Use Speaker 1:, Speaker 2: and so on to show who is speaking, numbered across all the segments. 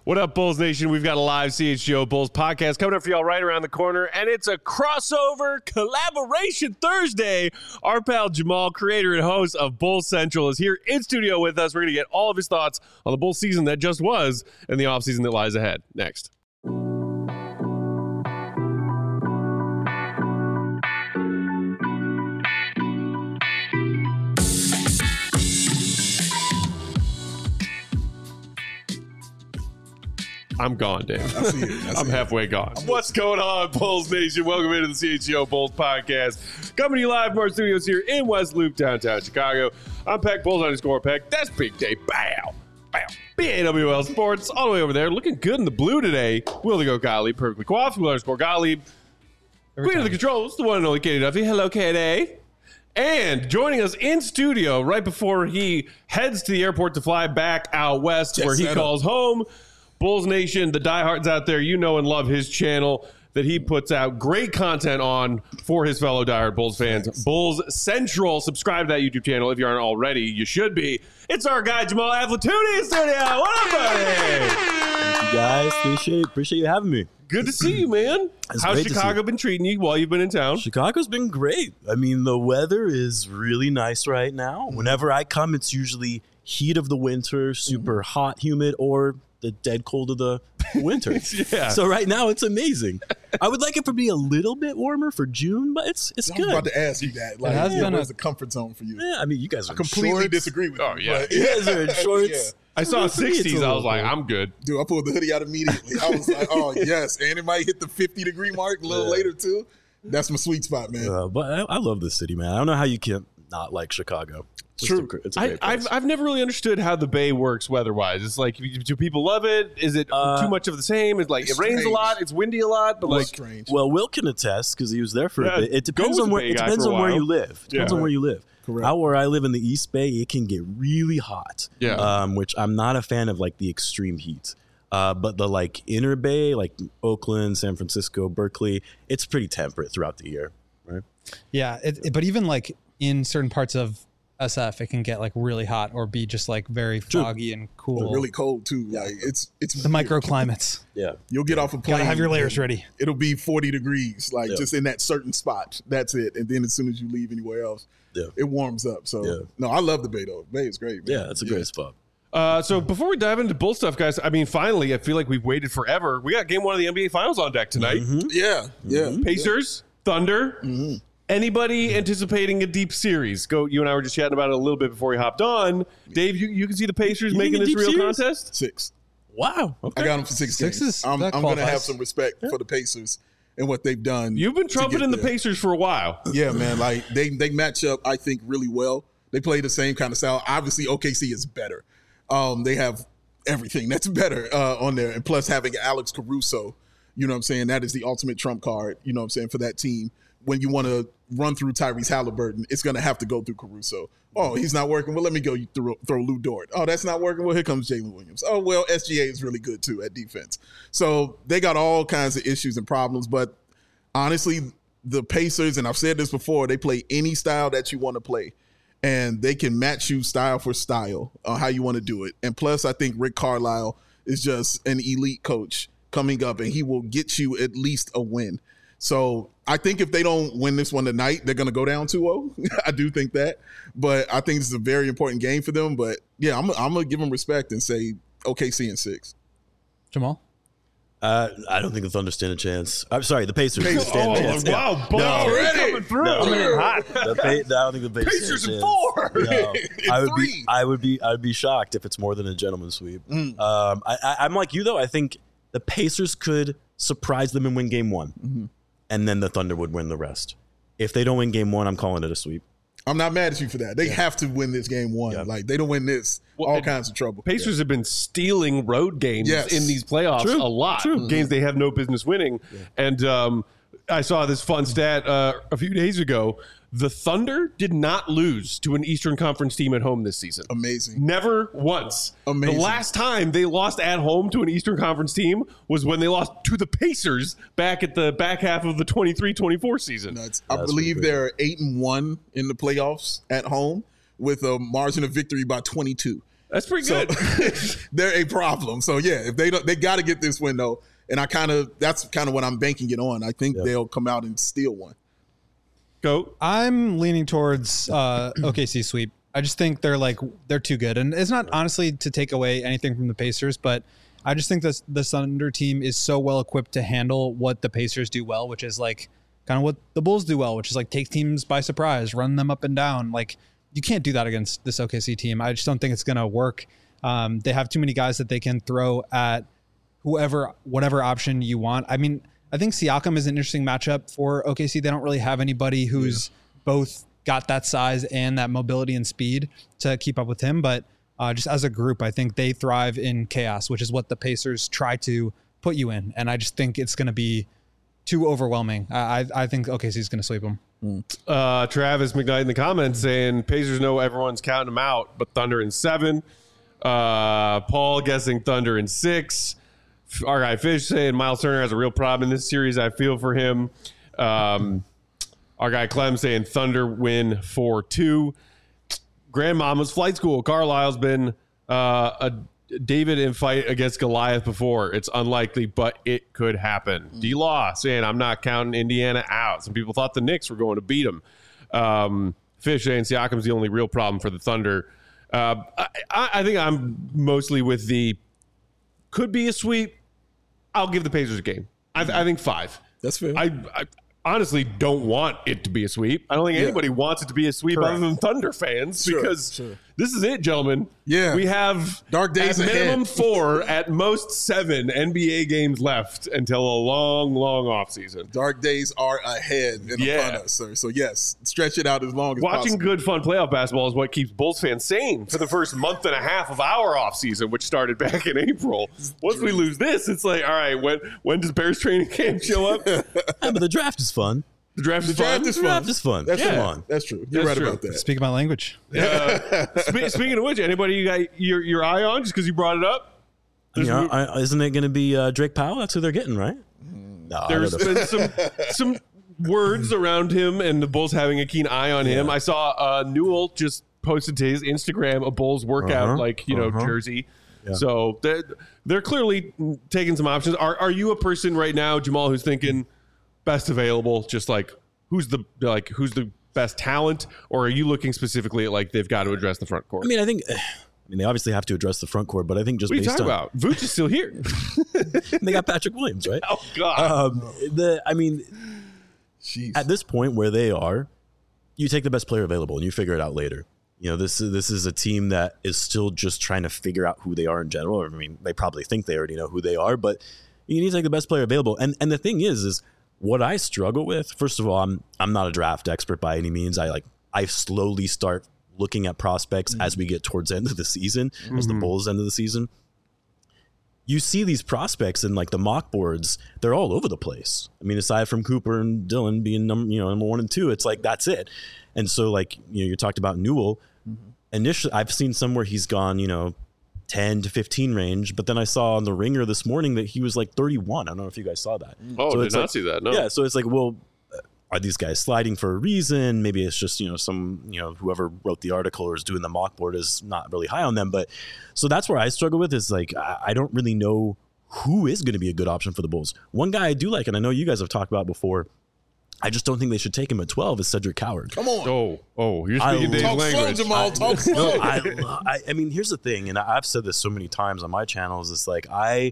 Speaker 1: What up, Bulls Nation? We've got a live CHGO Bulls podcast coming up for y'all right around the corner, and it's a crossover collaboration Thursday. Our pal Jamal, creator and host of Bulls Central, is here in studio with us. We're going to get all of his thoughts on the Bulls season that just was and the offseason that lies ahead. Next. I'm gone, Dave.
Speaker 2: I see it.
Speaker 1: I'm halfway gone. What's going on, Bulls Nation? Welcome into the CHGO Bulls podcast. Coming to you live from our studios here in West Loop, downtown Chicago. I'm Peck, Bulls_Peck. That's Big Dave. Bow. Bow. BAWL Sports, all the way over there. Looking good in the blue today. Will the Go Gottlieb, perfectly coiffed. Will_Gottlieb. Queen of the controls, the one and only Katie Duffy. Hello, Katie. And joining us in studio right before he heads to the airport to fly back out west, where he calls home, Bulls Nation, the diehards out there, you know and love his channel that he puts out great content on for his fellow diehard Bulls fans. Thanks. Bulls Central. Subscribe to that YouTube channel if you aren't already. You should be. It's our guy, Jamal Aflatooni in studio. What up, buddy?
Speaker 3: Thank you, guys. Appreciate you having me.
Speaker 1: Good to see you, man. How's Chicago been treating you while you've been in town?
Speaker 3: Chicago's been great. I mean, the weather is really nice right now. Whenever I come, it's usually heat of the winter, super hot, humid, or the dead cold of the winter.
Speaker 1: Yeah.
Speaker 3: So right now it's amazing. I would like it to be a little bit warmer for June, but it's good.
Speaker 2: I was about to ask you that. Like, where's the comfort zone for you?
Speaker 3: Yeah, I mean, you guys are
Speaker 2: completely disagree with you.
Speaker 1: Oh, yeah.
Speaker 3: You guys are in shorts.
Speaker 2: Yeah.
Speaker 1: I saw 60s. I was like, I'm good.
Speaker 2: Dude, I pulled the hoodie out immediately. I was like, oh, yes. And it might hit the 50-degree mark a little later, too. That's my sweet spot, man.
Speaker 3: But I love this city, man. I don't know how you can not like Chicago.
Speaker 2: True.
Speaker 3: It's a great place.
Speaker 1: I've never really understood how the Bay works weather-wise. It's like, do people love it? Is it too much of the same? It's like, it rains
Speaker 2: strange.
Speaker 1: a lot, it's windy a lot, but like,
Speaker 2: strange.
Speaker 3: Well, Will can attest because he was there for a bit. It depends
Speaker 1: Go
Speaker 3: on
Speaker 1: with
Speaker 3: where
Speaker 1: the Bay guy for a
Speaker 3: where
Speaker 1: while.
Speaker 3: you live. Depends on where you live.
Speaker 2: Correct.
Speaker 3: Out where I live in the East Bay, it can get really hot.
Speaker 1: Yeah.
Speaker 3: Which I'm not a fan of, like the extreme heat. But the like inner Bay, like Oakland, San Francisco, Berkeley, it's pretty temperate throughout the year, right?
Speaker 4: Yeah, but even like in certain parts of SF, it can get like really hot or be just like very foggy and cool.
Speaker 2: Really cold too. Like it's
Speaker 4: the microclimates.
Speaker 3: Yeah.
Speaker 2: You'll get off a plane.
Speaker 4: Gotta have your layers ready.
Speaker 2: It'll be 40 degrees, like just in that certain spot. That's it. And then as soon as you leave anywhere else, it warms up. So no, I love the Bay though. Bay is great, man.
Speaker 3: Yeah, it's a great spot.
Speaker 1: So before we dive into Bull stuff, guys, I mean, finally, I feel like we've waited forever. We got game one of the NBA Finals on deck tonight.
Speaker 2: Yeah.
Speaker 1: Pacers, Thunder. Anybody anticipating a deep series? You and I were just chatting about it a little bit before we hopped on. Dave, you can see the Pacers making this real contest?
Speaker 2: 6.
Speaker 3: Wow. Okay.
Speaker 2: I got them for 6 games. I'm going to have some respect for the Pacers and what they've done.
Speaker 1: You've been trumpeting the Pacers for a while.
Speaker 2: Yeah, man. Like they match up, I think, really well. They play the same kind of style. Obviously, OKC is better. They have everything that's better on there. And plus having Alex Caruso, you know what I'm saying? That is the ultimate trump card, you know what I'm saying, for that team. When you want to run through Tyrese Halliburton, it's going to have to go through Caruso. Oh, he's not working. Well, let me go throw Lou Dort. Oh, that's not working. Well, here comes Jalen Williams. Oh, well, SGA is really good, too, at defense. So they got all kinds of issues and problems. But honestly, the Pacers, and I've said this before, they play any style that you want to play. And they can match you style for style on how you want to do it. And plus, I think Rick Carlisle is just an elite coach coming up, and he will get you at least a win. So I think if they don't win this one tonight, they're going to go down 2-0. I do think that. But I think this is a very important game for them. But, yeah, I'm going to give them respect and say OKC in 6.
Speaker 4: Jamal?
Speaker 3: I don't think the Thunder stand a chance. I'm sorry, the Pacers stand a chance.
Speaker 1: Wow, Bull coming through.
Speaker 3: Coming in hot. I don't think the Pacers
Speaker 1: in
Speaker 3: stand
Speaker 1: 4.
Speaker 3: No. I'd be shocked if it's more than a gentleman's sweep. I'm like you though. I think the Pacers could surprise them and win game 1, and then the Thunder would win the rest. If they don't win game 1, I'm calling it a sweep.
Speaker 2: I'm not mad at you for that. They have to win this game 1. Like, they don't win this, all kinds of trouble.
Speaker 1: Pacers have been stealing road games in these playoffs a lot. Games they have no business winning. And I saw this fun stat a few days ago. The Thunder did not lose to an Eastern Conference team at home this season.
Speaker 2: Amazing.
Speaker 1: Never once.
Speaker 2: Amazing.
Speaker 1: The last time they lost at home to an Eastern Conference team was when they lost to the Pacers back at the back half of the 23-24 season.
Speaker 2: I believe they're 8-1 in the playoffs at home with a margin of victory by 22.
Speaker 1: That's pretty good.
Speaker 2: They're a problem. So yeah, if they got to get this win though, and that's kind of what I'm banking it on. I think they'll come out and steal one.
Speaker 1: Go.
Speaker 4: I'm leaning towards OKC sweep. I just think they're too good, and it's not honestly to take away anything from the Pacers, but I just think that the Thunder team is so well equipped to handle what the Pacers do well, which is like kind of what the Bulls do well, which is like take teams by surprise, run them up and down. Like you can't do that against this OKC team. I just don't think it's going to work. They have too many guys that they can throw at whatever option you want. I mean, I think Siakam is an interesting matchup for OKC. They don't really have anybody who's both got that size and that mobility and speed to keep up with him. But just as a group, I think they thrive in chaos, which is what the Pacers try to put you in. And I just think it's going to be too overwhelming. I think OKC is going to sweep them.
Speaker 1: Travis McKnight in the comments saying Pacers know everyone's counting them out, but Thunder in 7. Paul guessing Thunder in 6. Our guy Fish saying Miles Turner has a real problem in this series. I feel for him. Our guy Clem saying Thunder win 4-2. Grandmama's flight school. Carlisle's been a David in fight against Goliath before. It's unlikely, but it could happen. D-Law saying I'm not counting Indiana out. Some people thought the Knicks were going to beat them. Fish saying Siakam's the only real problem for the Thunder. I think I'm mostly with the could be a sweep. I'll give the Pacers a game. I think 5.
Speaker 2: That's fair.
Speaker 1: I honestly don't want it to be a sweep. I don't think anybody wants it to be a sweep other than Thunder fans because this is it, gentlemen.
Speaker 2: Yeah.
Speaker 1: We have
Speaker 2: dark days
Speaker 1: at
Speaker 2: ahead.
Speaker 1: minimum 4, at most 7 NBA games left until a long, long offseason.
Speaker 2: Dark days are ahead and upon us, sir. So, yes, stretch it out as long as
Speaker 1: Watching
Speaker 2: possible.
Speaker 1: good, fun playoff basketball is what keeps Bulls fans sane for the first month and a half of our offseason, which started back in April. Once we lose this, it's like, all right, when does Bears training camp show up?
Speaker 3: Yeah, but the draft is fun.
Speaker 1: The draft is
Speaker 3: The draft is fun.
Speaker 2: That's
Speaker 3: Come on.
Speaker 2: That's true. You're right about that.
Speaker 4: Speak my language.
Speaker 1: Speaking of which, anybody you got your eye on just because you brought it up?
Speaker 3: Isn't it going to be Drake Powell? That's who they're getting, right? No,
Speaker 1: There's been some words around him and the Bulls having a keen eye on him. I saw Newell just posted to his Instagram a Bulls workout jersey. Yeah. So they're clearly taking some options. Are you a person right now, Jamal, who's thinking best available, just like who's the best talent, or are you looking specifically at like they've got to address the front court?
Speaker 3: I mean, they obviously have to address the front court, but I think just
Speaker 1: what are you
Speaker 3: based
Speaker 1: talking
Speaker 3: on
Speaker 1: about? Vooch is still here.
Speaker 3: They got Patrick Williams, right?
Speaker 1: Oh God.
Speaker 3: At this point where they are, you take the best player available and you figure it out later. You know, this is a team that is still just trying to figure out who they are in general. I mean, they probably think they already know who they are, but you need to take the best player available. And the thing is what I struggle with. First of all, I'm not a draft expert by any means. I slowly start looking at prospects as we get towards the end of the season, as the Bulls end of the season. You see these prospects in like the mock boards, they're all over the place. I mean, aside from Cooper and Dillon being number 1 and 2, it's like that's it. And so like, you talked about Newell. Initially, I've seen somewhere he's gone, 10 to 15 range, but then I saw on the Ringer this morning that he was like 31. I don't know if you guys saw that.
Speaker 1: Oh,
Speaker 3: so
Speaker 1: did not see that. No.
Speaker 3: Yeah, so it's like, well, are these guys sliding for a reason? Maybe it's just, whoever wrote the article or is doing the mock board is not really high on them. But so that's where I struggle with is like, I don't really know who is going to be a good option for the Bulls. One guy I do like, and I know you guys have talked about before, I just don't think they should take him at 12 is Cedric Coward.
Speaker 2: Come on.
Speaker 1: Oh, you're speaking Dave's
Speaker 2: talk
Speaker 1: language.
Speaker 2: Slow, Jamal. Talk slow.
Speaker 3: I mean, here's the thing, and I've said this so many times on my channels. It's like I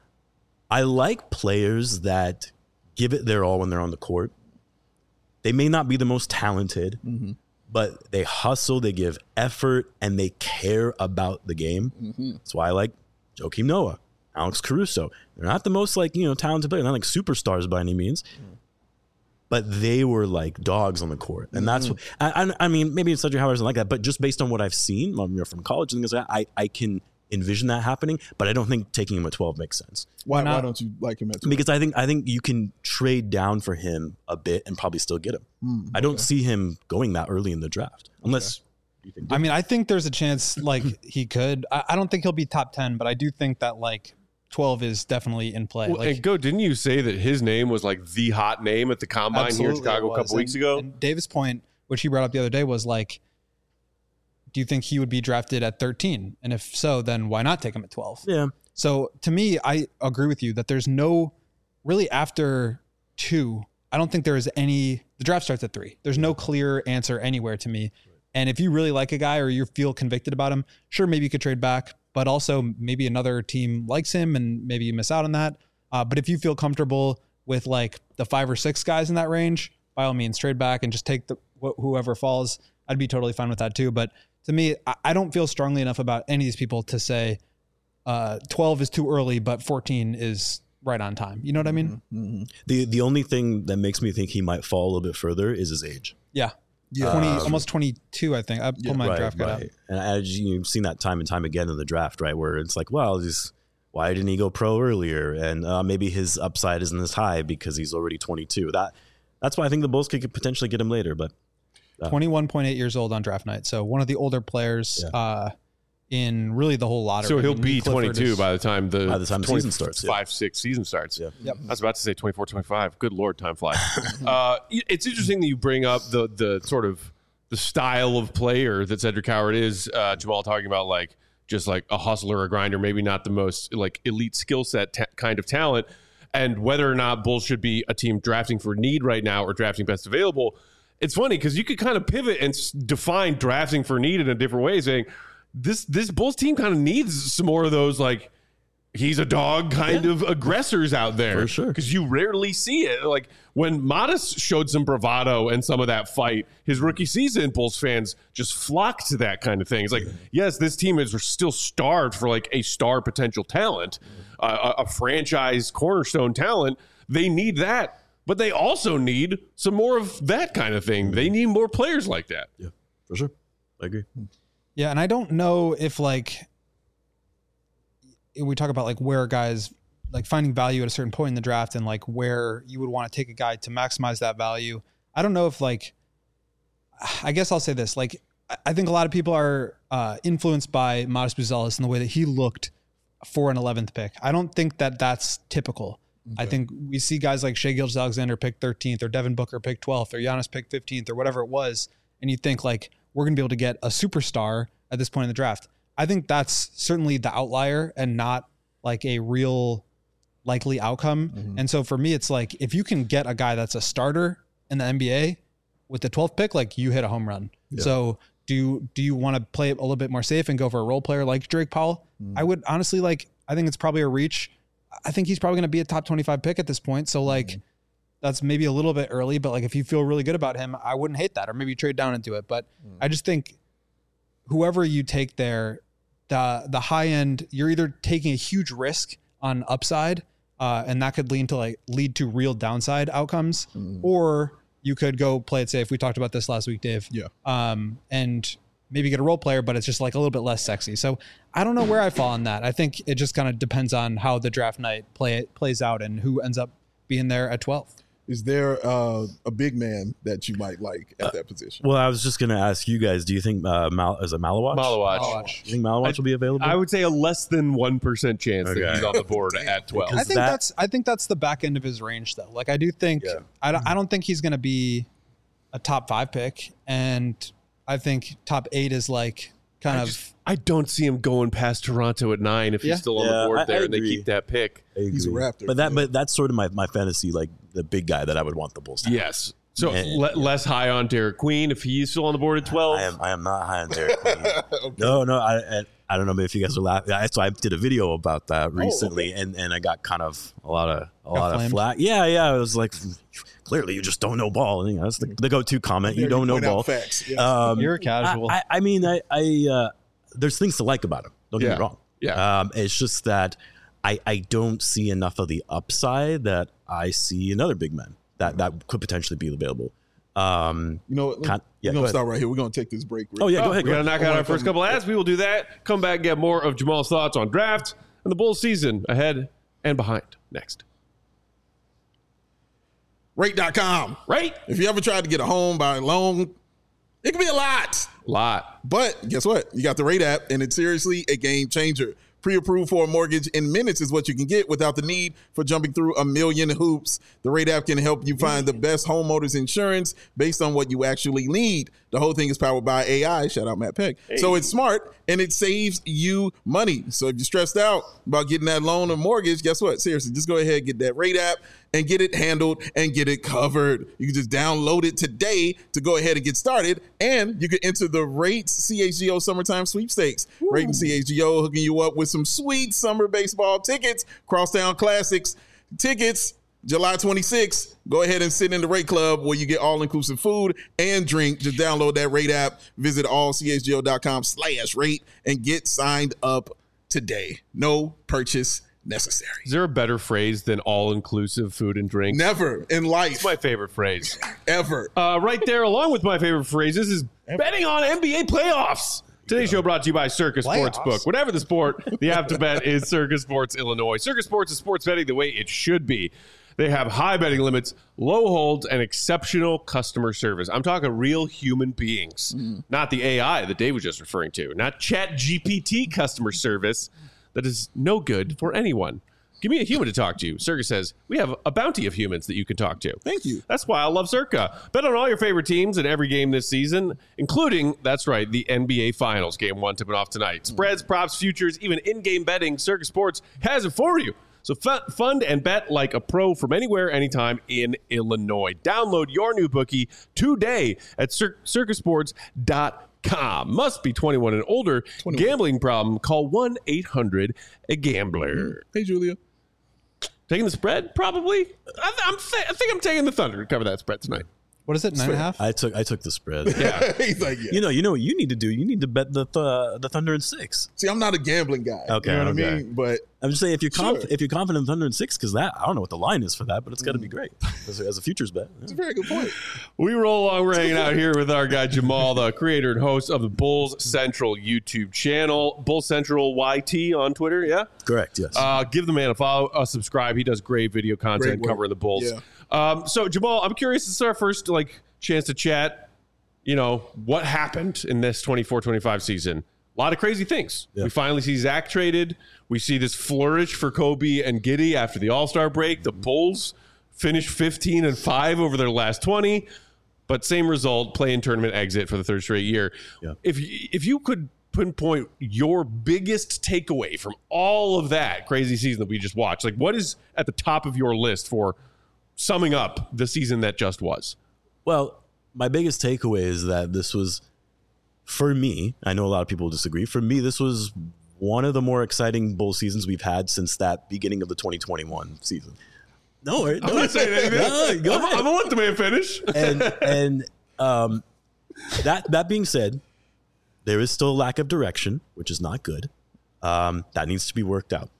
Speaker 3: like players that give it their all when they're on the court. They may not be the most talented, but they hustle, they give effort, and they care about the game. That's why I like Joakim Noah, Alex Caruso. They're not the most talented players, not like superstars by any means. But they were like dogs on the court. And that's what, I mean, maybe Cedric Howard isn't like that, but just based on what I've seen from college and things like that, I can envision that happening, but I don't think taking him at 12 makes sense.
Speaker 2: Why don't you like him at 12?
Speaker 3: Because I think you can trade down for him a bit and probably still get him. I don't see him going that early in the draft unless you think.
Speaker 4: I mean, I think there's a chance like he could. I don't think he'll be top 10, but I do think that like 12 is definitely in play.
Speaker 1: Well, and didn't you say that his name was like the hot name at the combine here in Chicago a couple weeks ago?
Speaker 4: And Davis' point, which he brought up the other day, was like do you think he would be drafted at 13? And if so, then why not take him at 12?
Speaker 3: Yeah.
Speaker 4: So to me, I agree with you that there's no really after 2. I don't think there is any. The draft starts at 3. There's no clear answer anywhere to me. And if you really like a guy or you feel convicted about him, sure, maybe you could trade back, but also maybe another team likes him and maybe you miss out on that. But if you feel comfortable with like the 5 or 6 guys in that range, by all means, trade back and just take whoever falls. I'd be totally fine with that too. But to me, I don't feel strongly enough about any of these people to say 12 is too early, but 14 is right on time. You know what I mean?
Speaker 3: Mm-hmm. The only thing that makes me think he might fall a little bit further is his age.
Speaker 4: Yeah. 20, almost 22, I think. I pulled my draft guide out.
Speaker 3: And you've seen that time and time again in the draft, right? Where it's like, well, why didn't he go pro earlier? And maybe his upside isn't as high because he's already 22. That's why I think the Bulls could potentially get him later. But
Speaker 4: 21.8 years old on draft night. So one of the older players in really the whole lottery.
Speaker 1: So he'll be 22 by the time the
Speaker 3: season starts.
Speaker 1: 5-6 season starts.
Speaker 3: Yeah.
Speaker 4: Yep.
Speaker 1: I was about to say 24, 25. Good Lord, time flies. It's interesting that you bring up the sort of the style of player that Cedric Howard is. Jamal talking about like just like a hustler, a grinder, maybe not the most like elite skill set kind of talent, and whether or not Bulls should be a team drafting for need right now or drafting best available. It's funny because you could kind of pivot and define drafting for need in a different way, saying this Bulls team kind of needs some more of those like he's a dog kind of aggressors out there.
Speaker 3: For sure.
Speaker 1: Because you rarely see it. Like when Modest showed some bravado and some of that fight, his rookie season, Bulls fans just flocked to that kind of thing. It's like, yes, this team is still starved for like a star potential talent, a franchise cornerstone talent. They need that, but they also need some more of that kind of thing. They need more players like that.
Speaker 3: Yeah, for sure. I agree.
Speaker 4: Yeah, and I don't know if like we talk about like where guys like finding value at a certain point in the draft and like where you would want to take a guy to maximize that value. I don't know if like, I guess I'll say this, like, I think a lot of people are influenced by Modest Buzelis in the way that he looked for an 11th pick. I don't think that that's typical. Okay. I think we see guys like Shai Gilgeous-Alexander pick 13th or Devin Booker pick 12th or Giannis pick 15th or whatever it was. And you think like, we're going to be able to get a superstar at this point in the draft. I think that's certainly the outlier and not like a real likely outcome. Mm-hmm. And so for me, it's like, if you can get a guy that's a starter in the NBA with the 12th pick, like you hit a home run. Yeah. So do you want to play a little bit more safe and go for a role player like Drake Powell? Mm-hmm. I would honestly I think it's probably a reach. I think he's probably going to be a top 25 pick at this point. So like, that's maybe a little bit early, but like if you feel really good about him, I wouldn't hate that, or maybe trade down into it. But I just think whoever you take there, the high end, you're either taking a huge risk on upside, and that could lead to real downside outcomes, or you could go play it safe. We talked about this last week, Dave.
Speaker 2: Yeah.
Speaker 4: And maybe get a role player, but it's just like a little bit less sexy. So I don't know where I fall on that. I think it just kind of depends on how the draft night plays out and who ends up being there at 12.
Speaker 2: Is there a big man that you might like at that position?
Speaker 3: Well, I was just going to ask you guys, do you think is it Malawach?
Speaker 1: Malawach.
Speaker 3: Do you think Malawach will be available?
Speaker 1: I would say a less than 1% chance that he's on the board at 12.
Speaker 4: I think that's the back end of his range though. Like I do think, I don't think he's going to be a top 5 pick. And I think top 8 is like
Speaker 1: I don't see him going past Toronto at 9 if he's still on the board there and they keep that pick.
Speaker 2: He's a Raptor.
Speaker 3: But that's sort of my fantasy, like the big guy that I would want the Bulls to have.
Speaker 1: Yes. So less high on Derek Queen if he's still on the board at 12.
Speaker 3: I am not high on Derek Queen. Okay. No. I don't know if you guys are laughing. So I did a video about that recently, and I got kind of a lot of flack. Yeah. It was like, clearly you just don't know ball. And, that's the go-to comment. You don't know ball.
Speaker 2: Facts. Yes.
Speaker 4: You're casual.
Speaker 3: I mean, there's things to like about him. Don't get me wrong.
Speaker 1: Yeah.
Speaker 3: It's just that I don't see enough of the upside that I see in other big men that could potentially be available.
Speaker 2: We're going to start right here. We're going to take this break.
Speaker 3: Go ahead.
Speaker 1: We're going to knock out our first couple ads. We will do that. Come back and get more of Jamal's thoughts on draft and the Bulls season ahead and behind next.
Speaker 2: Rate.com.
Speaker 1: Right?
Speaker 2: If you ever tried to get a home by loan, it can be a lot.
Speaker 1: Lot.
Speaker 2: But guess what? You got the Rate app, and it's seriously a game changer. Pre-approved for a mortgage in minutes is what you can get without the need for jumping through a million hoops. The Rate app can help you find the best homeowners insurance based on what you actually need. The whole thing is powered by AI. Shout out Matt Peck. Hey. So it's smart and it saves you money. So if you're stressed out about getting that loan or mortgage, guess what? Seriously, just go ahead and get that Rate app and get it handled and get it covered. You can just download it today to go ahead and get started. And you can enter the Rates CHGO Summertime Sweepstakes. Rate and CHGO hooking you up with some sweet summer baseball tickets, Crosstown Classics tickets, July 26th. Go ahead and sit in the Rate Club where you get all-inclusive food and drink. Just download that Rate app, visit allchgo.com/rate, and get signed up today. No purchase necessary.
Speaker 1: Is there a better phrase than all-inclusive food and drink?
Speaker 2: Never in life.
Speaker 1: It's my favorite phrase.
Speaker 2: Ever.
Speaker 1: Right there, along with my favorite phrases, is betting on NBA playoffs. Today's show brought to you by Circus Sportsbook. Whatever the sport, the app to bet is Circus Sports Illinois. Circus Sports is sports betting the way it should be. They have high betting limits, low holds, and exceptional customer service. I'm talking real human beings, not the AI that Dave was just referring to, not ChatGPT customer service that is no good for anyone. Give me a human to talk to. Circa says, we have a bounty of humans that you can talk to.
Speaker 2: Thank you.
Speaker 1: That's why I love Circa. Bet on all your favorite teams in every game this season, including, that's right, the NBA Finals. Game 1 tipping off tonight. Spreads, props, futures, even in-game betting, Circa Sports has it for you. So fund and bet like a pro from anywhere, anytime in Illinois. Download your new bookie today at circusports.com. Must be 21 and older. 21. Gambling problem? Call 1-800-GAMBLER.
Speaker 2: Hey, Julia.
Speaker 1: Taking the spread? Probably. I think I'm taking the Thunder to cover that spread tonight.
Speaker 4: What is it? 9.5?
Speaker 3: I took the spread.
Speaker 1: Yeah.
Speaker 2: He's like, yeah.
Speaker 3: You know what you need to do? You need to bet the Thunder in 6.
Speaker 2: See, I'm not a gambling guy.
Speaker 3: Okay,
Speaker 2: you know what I mean? But
Speaker 3: I'm just saying if you're
Speaker 2: Sure.
Speaker 3: if you're confident in Thunder in 6, because that I don't know what the line is for that, but it's got to be great as a futures bet.
Speaker 2: it's a very good point.
Speaker 1: We roll along. We're hanging out here with our guy Jamal, the creator and host of the Bulls Central YouTube channel, Bulls Central YT on Twitter. Yeah,
Speaker 3: Correct. Yes.
Speaker 1: give the man a follow, a subscribe. He does great video content
Speaker 2: Great work.
Speaker 1: covering the Bulls.
Speaker 2: Yeah.
Speaker 1: So Jamal, I'm curious. This is our first chance to chat. You know what happened in this 24-25 season. A lot of crazy things.
Speaker 3: Yeah.
Speaker 1: We finally see Zach traded. We see this flourish for Kobe and Giddey after the All-Star break. The Bulls finished 15-5 over their last 20, but same result, play-in tournament exit for the third straight year.
Speaker 3: Yeah.
Speaker 1: If you could pinpoint your biggest takeaway from all of that crazy season that we just watched, what is at the top of your list for summing up the season that just was?
Speaker 3: Well, my biggest takeaway is that this was, for me, I know a lot of people disagree. For me, this was one of the more exciting Bull seasons we've had since that beginning of the 2021 season. No,
Speaker 1: I'm not saying anything.
Speaker 3: No, go ahead.
Speaker 1: I'm gonna let the man finish.
Speaker 3: And that being said, there is still a lack of direction, which is not good. That needs to be worked out.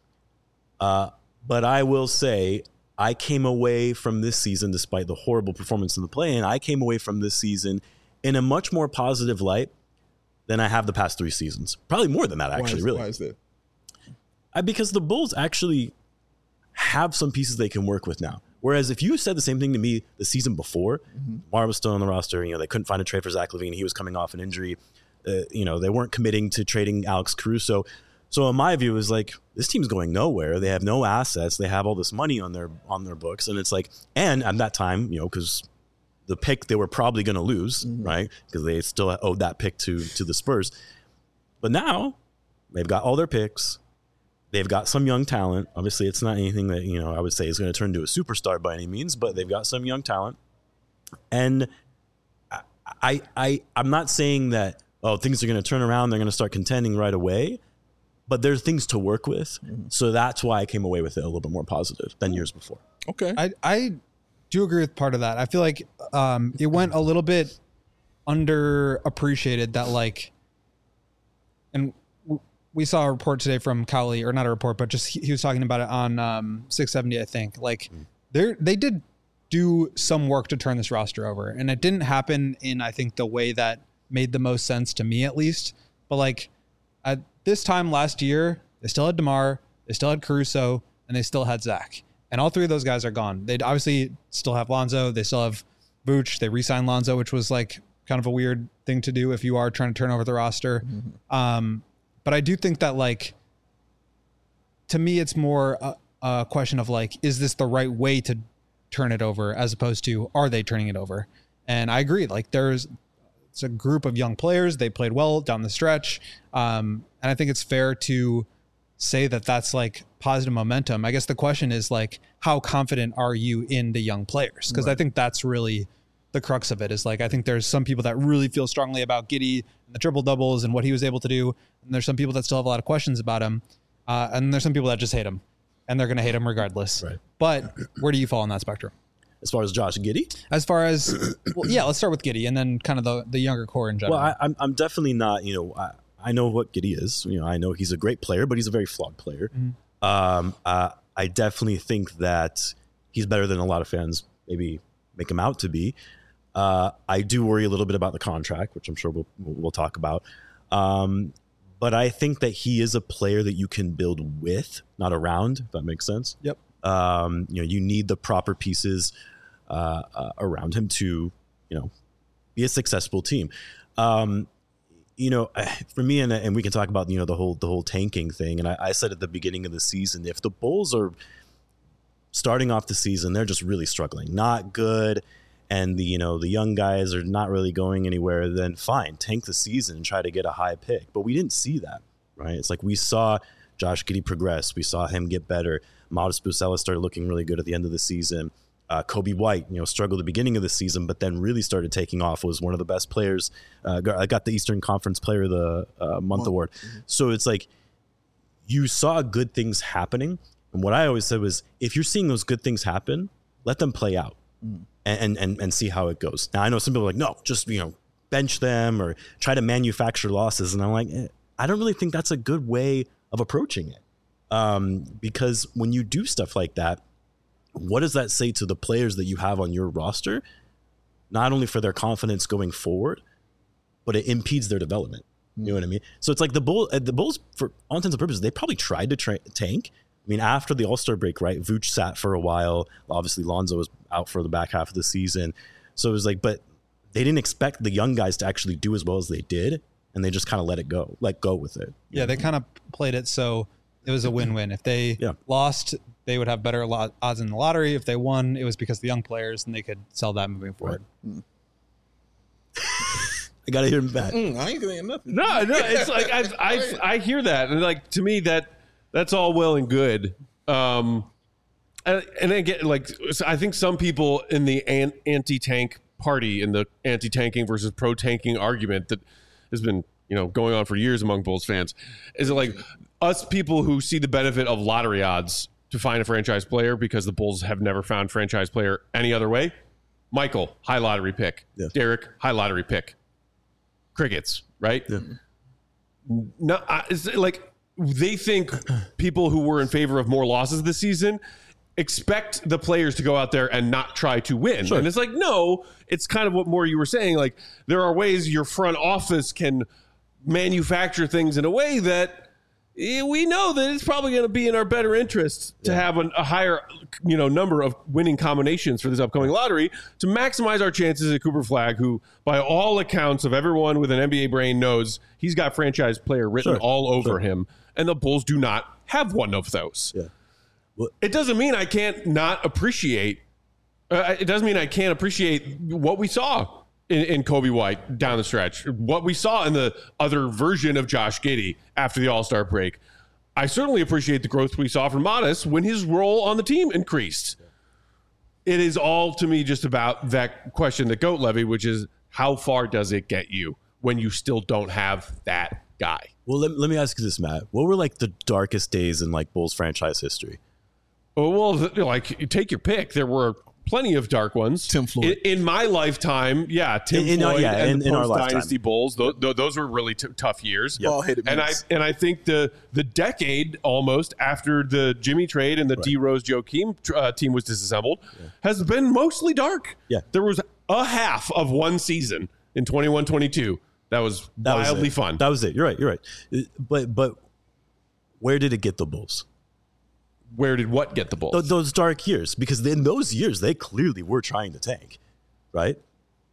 Speaker 3: But I will say, I came away from this season, despite the horrible performance in the play-in, I came away from this season in a much more positive light than I have the past 3 seasons. Probably more than that, actually, really.
Speaker 2: Why is that?
Speaker 3: Because the Bulls actually have some pieces they can work with now. Whereas if you said the same thing to me the season before, Mar was still on the roster, they couldn't find a trade for Zach LaVine. He was coming off an injury. They weren't committing to trading Alex Caruso. So in my view, it was this team's going nowhere. They have no assets. They have all this money on their books. And it's and at that time, because the pick they were probably going to lose, right? Because they still owed that pick to the Spurs. But now they've got all their picks. They've got some young talent. Obviously, it's not anything that, I would say is going to turn into a superstar by any means, but they've got some young talent. And I'm not saying that, things are going to turn around, they're going to start contending right away, but there's things to work with. So that's why I came away with it a little bit more positive than years before.
Speaker 2: Okay.
Speaker 4: I do agree with part of that. I feel like it went a little bit underappreciated that and we saw a report today from Cowley, or not a report, but just he was talking about it on 670, I think. They did do some work to turn this roster over, and it didn't happen in, I think, the way that made the most sense to me, at least. But at this time last year, they still had DeMar, they still had Caruso, and they still had Zach. And all 3 of those guys are gone. They obviously still have Lonzo. They still have Vooch. They re-signed Lonzo, which was kind of a weird thing to do if you are trying to turn over the roster. But I do think that to me, it's more a question of like, is this the right way to turn it over, as opposed to are they turning it over? And I agree. Like it's a group of young players. They played well down the stretch, and I think it's fair to say that that's like positive momentum. I guess the question is like, how confident are you in the young players? Because I think that's really the crux of it. Is like, I think there's some people that really feel strongly about Giddey and the triple doubles and what he was able to do, and there's some people that still have a lot of questions about him, and there's some people that just hate him, and they're going to hate him regardless.
Speaker 3: Right.
Speaker 4: But where do you fall on that spectrum?
Speaker 3: As far as Josh Giddey?
Speaker 4: As far as, well, yeah, let's start with Giddey and then kind of the younger core in general.
Speaker 3: Well, I'm definitely not, I know what Giddey is. I know he's a great player, but he's a very flawed player. I definitely think that he's better than a lot of fans maybe make him out to be. I do worry a little bit about the contract, which I'm sure we'll talk about. But I think that he is a player that you can build with, not around, if that makes sense.
Speaker 4: Yep.
Speaker 3: You need the proper pieces around him to, be a successful team. For me, and we can talk about, the whole tanking thing. And I said at the beginning of the season, if the Bulls are starting off the season, they're just really struggling, not good, and the young guys are not really going anywhere, then fine, tank the season and try to get a high pick. But we didn't see that, right? It's like we saw Josh Giddey progress. We saw him get better. Modest Bucelis started looking really good at the end of the season. Kobe White, struggled at the beginning of the season, but then really started taking off. Was one of the best players. I got the Eastern Conference Player of the Month award. So it's like you saw good things happening. And what I always said was, if you're seeing those good things happen, let them play out and see how it goes. Now, I know some people are like, no, just, bench them or try to manufacture losses. And I'm like, I don't really think that's a good way of approaching it. Because when you do stuff like that, what does that say to the players that you have on your roster? Not only for their confidence going forward, but it impedes their development. You know what I mean? So it's like the Bulls, for all intents and purposes, they probably tried to tank. I mean, after the All-Star break, right? Vooch sat for a while. Obviously, Lonzo was out for the back half of the season. So it was like, but they didn't expect the young guys to actually do as well as they did, and they just kind of let go with it.
Speaker 4: Yeah, they kind of played it so it was a win-win. If they lost, they would have better odds in the lottery. If they won, it was because of the young players, and they could sell that moving forward.
Speaker 3: Right. I gotta hear him back.
Speaker 2: I ain't saying nothing.
Speaker 1: No, it's like I hear that, and like to me that's all well and good. And again, like I think some people in the anti-tank party, in the anti-tanking versus pro-tanking argument that has been going on for years among Bulls fans, is it like us people who see the benefit of lottery odds to find a franchise player because the Bulls have never found franchise player any other way? Michael, high lottery pick. Yeah. Derek, high lottery pick. Crickets, right? Yeah. No, it's like they think people who were in favor of more losses this season expect the players to go out there and not try to win. Sure. And it's like, no, it's kind of what more you were saying. Like, there are ways your front office can manufacture things in a way that we know that it's probably going to be in our better interest to have a higher, number of winning combinations for this upcoming lottery to maximize our chances at Cooper Flagg, who, by all accounts of everyone with an NBA brain, knows he's got franchise player written all over him, and the Bulls do not have one of those. Yeah. Well, it doesn't mean I can't not appreciate. It doesn't mean I can't appreciate what we saw in Kobe White down the stretch, what we saw in the other version of Josh Giddey after the All-Star break. I certainly appreciate the growth we saw from Modest when his role on the team increased. It is all, to me, just about that question that Goat Levy, which is how far does it get you when you still don't have that guy?
Speaker 3: Well, let me ask you this, Matt. What were like the darkest days in like Bulls franchise history?
Speaker 1: Well, like, take your pick. There were plenty of dark ones.
Speaker 2: Tim Floyd.
Speaker 1: In my lifetime, Tim Floyd and the post-Dynasty Bulls. Those were really tough years.
Speaker 2: Yep.
Speaker 1: And I think the decade almost after the Jimmy trade and the D. Rose Joakim team was disassembled has been mostly dark. Yeah. There was a half of one season in 21-22 that was wildly fun.
Speaker 3: That was it. You're right. But where did it get the Bulls?
Speaker 1: Where did what get the Bulls?
Speaker 3: Those dark years, because in those years they clearly were trying to tank, right?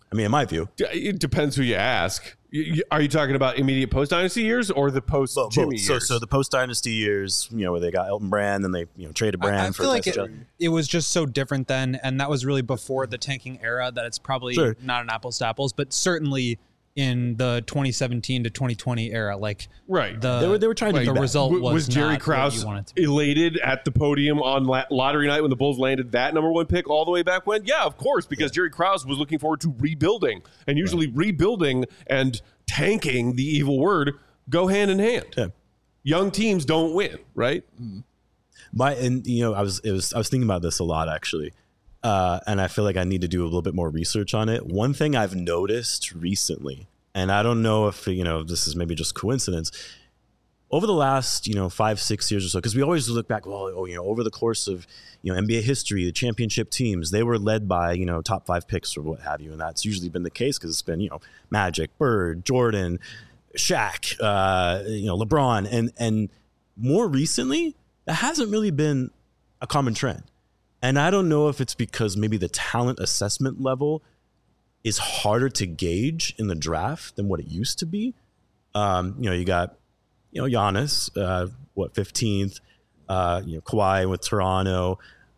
Speaker 3: I mean, in my view.
Speaker 1: It depends who you ask. Are you talking about immediate post-dynasty years or the post-Jimmy years?
Speaker 3: So the post-dynasty years, where they got Elton Brand and they traded Brand
Speaker 4: I
Speaker 3: for
Speaker 4: feel like
Speaker 3: Tyson
Speaker 4: it was just so different then, and that was really before the tanking era that it's probably not an apples to apples, but certainly in the 2017 to 2020 era,
Speaker 1: right.
Speaker 3: They were trying to
Speaker 4: the result
Speaker 1: was Jerry Krause elated at the podium on lottery night when the Bulls landed that number 1 pick all the way back when? Yeah, of course, because Jerry Krause was looking forward to rebuilding, and usually rebuilding and tanking, the evil word, go hand in hand.
Speaker 3: Yeah.
Speaker 1: Young teams don't win, right?
Speaker 3: I was thinking about this a lot actually. And I feel like I need to do a little bit more research on it. One thing I've noticed recently, and I don't know if, this is maybe just coincidence, over the last, 5-6 years or so, because we always look back, over the course of, NBA history, the championship teams, they were led by, top 5 picks or what have you. And that's usually been the case because it's been, Magic, Bird, Jordan, Shaq, LeBron. And more recently, that hasn't really been a common trend. And I don't know if it's because maybe the talent assessment level is harder to gauge in the draft than what it used to be. You got, Giannis, 15th, Kawhi with Toronto,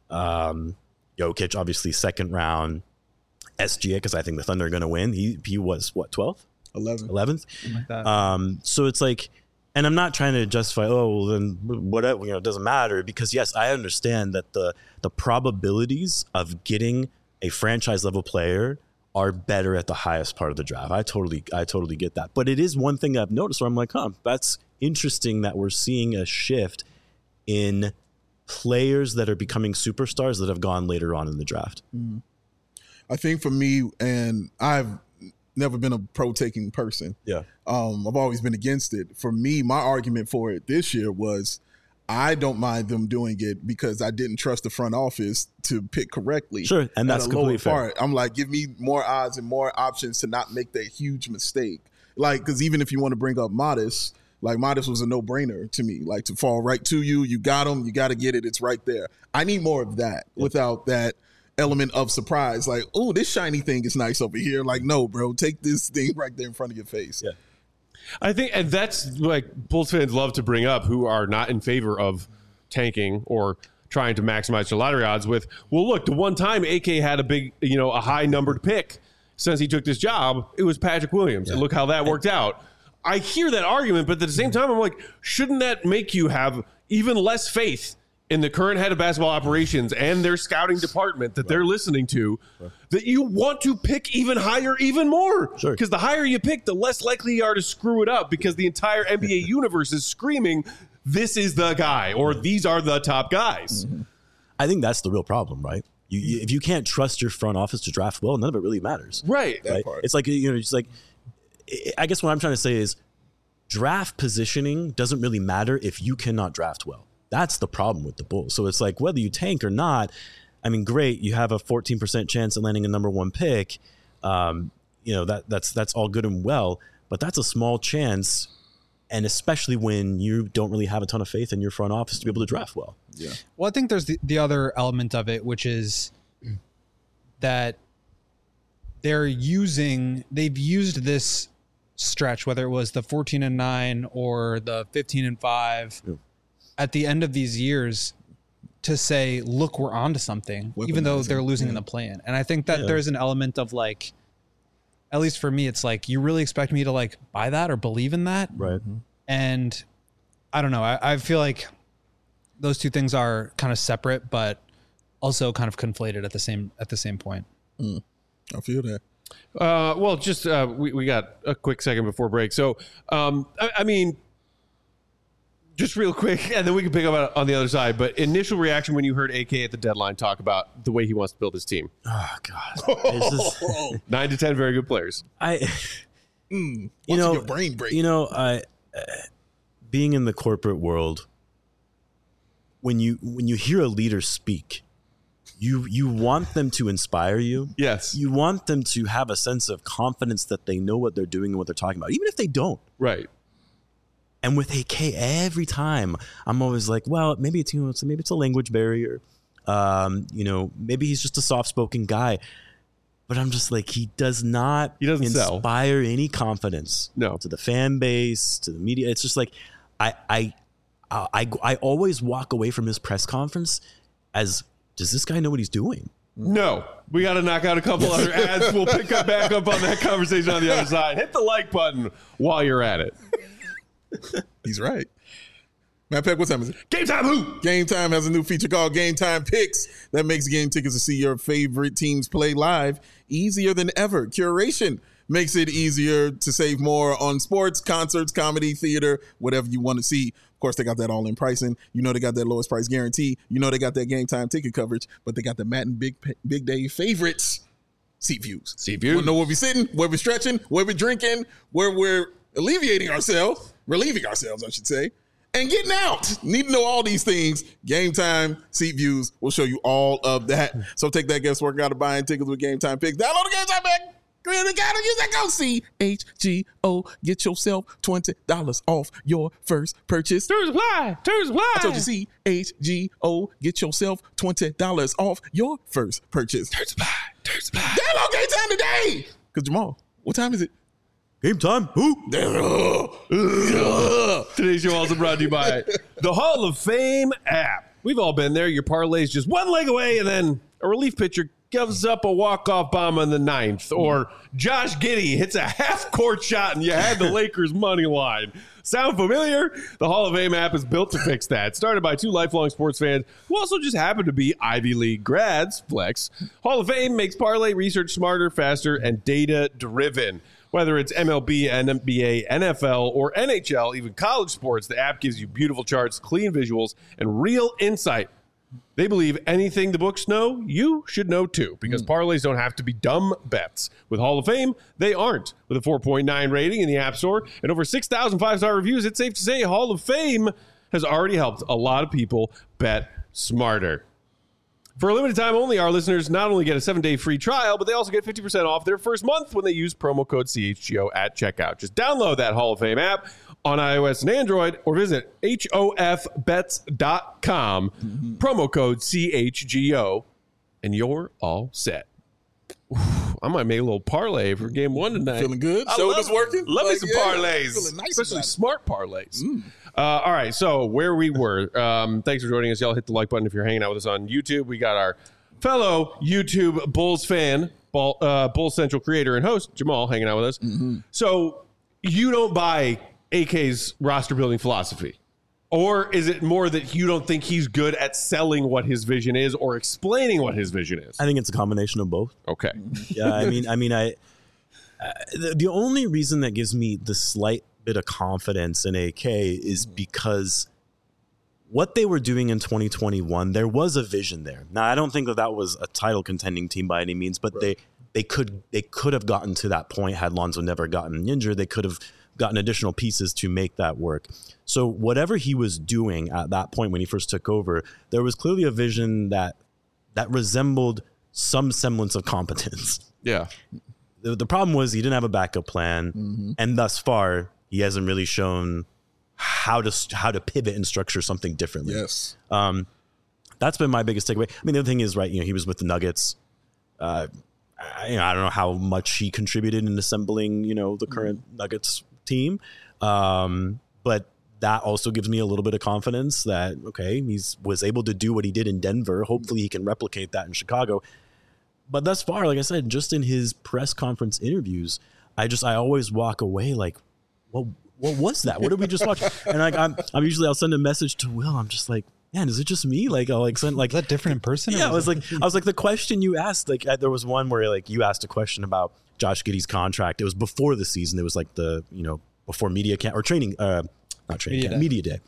Speaker 3: Jokic, obviously 2nd round, SGA, because I think the Thunder are going to win. He was 12th? 11th?
Speaker 4: Like that.
Speaker 3: So it's like, and I'm not trying to justify, then whatever, it doesn't matter, because yes, I understand that the probabilities of getting a franchise level player are better at the highest part of the draft. I totally get that. But it is one thing I've noticed where I'm like, that's interesting that we're seeing a shift in players that are becoming superstars that have gone later on in the draft.
Speaker 2: I think for me, and I've never been a pro-taking person.
Speaker 3: Yeah.
Speaker 2: I've always been against it. For me, my argument for it this year was I don't mind them doing it because I didn't trust the front office to pick correctly.
Speaker 3: Sure, and that's completely fair.
Speaker 2: I'm like, give me more odds and more options to not make that huge mistake. Because even if you want to bring up Modest, Modest was a no-brainer to me. To fall right to you, you got him, you got to get it, it's right there. I need more of that without that element of surprise. This shiny thing is nice over here. No, bro, take this thing right there in front of your face.
Speaker 3: Yeah.
Speaker 1: I think, and that's Bulls fans love to bring up who are not in favor of tanking or trying to maximize their lottery odds with, well, look, the one time AK had a big, a high numbered pick since he took this job, it was Patrick Williams. Yeah. And look how that worked out. I hear that argument, but at the same time, I'm like, shouldn't that make you have even less faith in the current head of basketball operations and their scouting department that they're listening to, that you want to pick even higher, even more?
Speaker 3: Sure.
Speaker 1: Because the higher you pick, the less likely you are to screw it up, because the entire NBA universe is screaming, this is the guy, or these are the top guys.
Speaker 3: Mm-hmm. I think that's the real problem, right? If you can't trust your front office to draft well, none of it really matters.
Speaker 1: Right.
Speaker 3: It's like, I guess what I'm trying to say is draft positioning doesn't really matter if you cannot draft well. That's the problem with the Bulls. So it's like, whether you tank or not, I mean, great, you have a 14% chance of landing a number 1 pick. That's all good and well, but that's a small chance, and especially when you don't really have a ton of faith in your front office to be able to draft well.
Speaker 2: Yeah.
Speaker 4: Well, I think there's the other element of it, which is that they've used this stretch, whether it was the 14-9 or the 15-5. Yeah. At the end of these years, to say, look, we're onto something, even though they're losing in the play-in. And I think that there's an element of at least for me, it's you really expect me to buy that or believe in that.
Speaker 3: Right.
Speaker 4: And I don't know. I feel like those two things are kind of separate, but also kind of conflated at the same point.
Speaker 2: I feel that.
Speaker 1: Well, just we got a quick second before break. So, I mean, just real quick, and then we can pick up on the other side. But initial reaction when you heard AK at the deadline talk about the way he wants to build his team.
Speaker 3: Oh, God.
Speaker 1: 9 to 10 very good players.
Speaker 2: Your brain break.
Speaker 3: Being in the corporate world, when you hear a leader speak, you want them to inspire you.
Speaker 1: Yes.
Speaker 3: You want them to have a sense of confidence that they know what they're doing and what they're talking about, even if they don't.
Speaker 1: Right.
Speaker 3: And with AK, every time I'm always like, well, maybe it's a language barrier. Maybe he's just a soft-spoken guy. But I'm just like, he doesn't inspire any confidence.
Speaker 1: No.
Speaker 3: To the fan base, to the media. It's just like, I always walk away from his press conference as, does this guy know what he's doing?
Speaker 1: No. We got to knock out a couple other ads. We'll pick up back up on that conversation on the other side. Hit the like button while you're at it.
Speaker 2: He's right. Matt Peck, what time is it?
Speaker 1: Game Time Who?
Speaker 2: Game Time has a new feature called Game Time Picks that makes game tickets to see your favorite teams play live easier than ever. Curation makes it easier to save more on sports, concerts, comedy, theater, whatever you want to see. Of course, they got that all-in pricing. You know they got that lowest price guarantee. You know they got that Game Time ticket coverage, but they got the Matt and Big Day favorites, seat views.
Speaker 1: Seat views.
Speaker 2: Want to know where we're sitting, where we're stretching, where we're drinking, where we're relieving ourselves, I should say, and getting out. Need to know all these things. Game Time seat views will show you all of that. So take that guesswork out of buying tickets with Game Time Picks. Download the Game Time Pick. Really gotta use that code CHGO. Get yourself $20 off your first purchase.
Speaker 1: Terms apply.
Speaker 2: I told you CHGO. Get yourself $20 off your first purchase.
Speaker 1: Terms apply.
Speaker 2: Download Game Time today. Because Jamal, what time is it?
Speaker 3: Game Time Who?
Speaker 1: Today's show also brought to you by the Hall of Fame app. We've all been there. Your parlay's just one leg away, and then a relief pitcher gives up a walk-off bomb in the ninth, or Josh Giddey hits a half-court shot and you had the Lakers money line. Sound familiar? The Hall of Fame app is built to fix that. Started by two lifelong sports fans who also just happen to be Ivy League grads, flex. Hall of Fame makes parlay research smarter, faster, and data-driven. Whether it's MLB, NBA, NFL, or NHL, even college sports, the app gives you beautiful charts, clean visuals, and real insight. They believe anything the books know, you should know too, because parlays don't have to be dumb bets. With Hall of Fame, they aren't. With a 4.9 rating in the App Store and over 6,000 5-star reviews, it's safe to say Hall of Fame has already helped a lot of people bet smarter. For a limited time only, our listeners not only get a 7-day free trial, but they also get 50% off their first month when they use promo code CHGO at checkout. Just download that Hall of Fame app on iOS and Android or visit hofbets.com, promo code CHGO, and you're all set. I might make a little parlay for game one tonight.
Speaker 2: Feeling good? Shoulders working?
Speaker 1: Love me some parlays.
Speaker 2: Feeling nice,
Speaker 1: especially smart parlays. All right, so where we were. Thanks for joining us. Y'all hit the like button if you're hanging out with us on YouTube. We got our fellow YouTube Bulls fan, Bulls Central creator and host, Jamal, hanging out with us. So you don't buy AK's roster building philosophy? Or is it more that you don't think he's good at selling what his vision is or explaining what his vision is?
Speaker 3: I think it's a combination of both.
Speaker 1: Okay.
Speaker 3: Yeah, the only reason that gives me the slight bit of confidence in AK is because what they were doing in 2021, there was a vision there. Now, I don't think that was a title contending team by any means, but they could have gotten to that point had Lonzo never gotten injured. They could have gotten additional pieces to make that work. So whatever he was doing at that point when he first took over, there was clearly a vision that resembled some semblance of competence.
Speaker 1: Yeah.
Speaker 3: The problem was he didn't have a backup plan, and thus far he hasn't really shown how to pivot and structure something differently.
Speaker 2: Yes.
Speaker 3: That's been my biggest takeaway. I mean, the other thing is, right, he was with the Nuggets. I don't know how much he contributed in assembling, the current Nuggets team. But that also gives me a little bit of confidence that, okay, was able to do what he did in Denver. Hopefully he can replicate that in Chicago. But thus far, like I said, just in his press conference interviews, I always walk away like, what was that? What did we just watch? And like, I'll send a message to Will. I'm just like, man, is it just me? Like, I'll send
Speaker 4: is that different in person?
Speaker 3: Yeah, I was like, the question you asked, like, there was one where you asked a question about Josh Giddey's contract. It was before the season. It was like before media camp or training, not training camp, media day.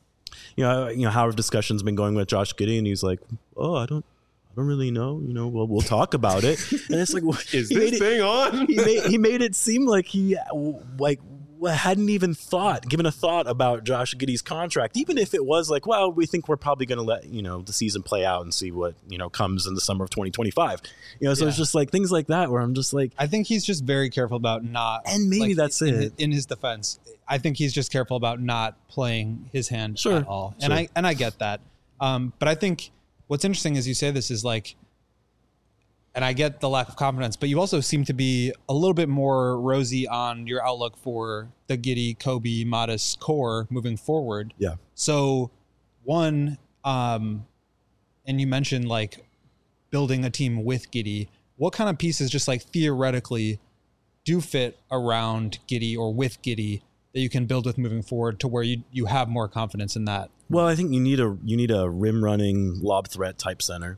Speaker 3: How have discussions been going with Josh Giddey? And he's like, oh, I don't really know. Well, we'll talk about it. And it's like,
Speaker 1: is this thing on?
Speaker 3: He made it seem like he hadn't even given a thought about Josh Giddey's contract, even if it was like, well, we think we're probably going to let the season play out and see what comes in the summer of 2025. So it's just like things like that where I'm just like,
Speaker 4: I think he's just very careful about not,
Speaker 3: and maybe that's it.
Speaker 4: In his defense, I think he's just careful about not playing his hand at all,
Speaker 3: Sure.
Speaker 4: and I get that. But I think what's interesting as you say this is like, and I get the lack of confidence, but you also seem to be a little bit more rosy on your outlook for the Giddey, Kobe, Modest core moving forward.
Speaker 3: Yeah.
Speaker 4: So one, and you mentioned like building a team with Giddey. What kind of pieces just like theoretically do fit around Giddey or with Giddey that you can build with moving forward to where you have more confidence in that?
Speaker 3: Well, I think you need a rim running lob threat type center.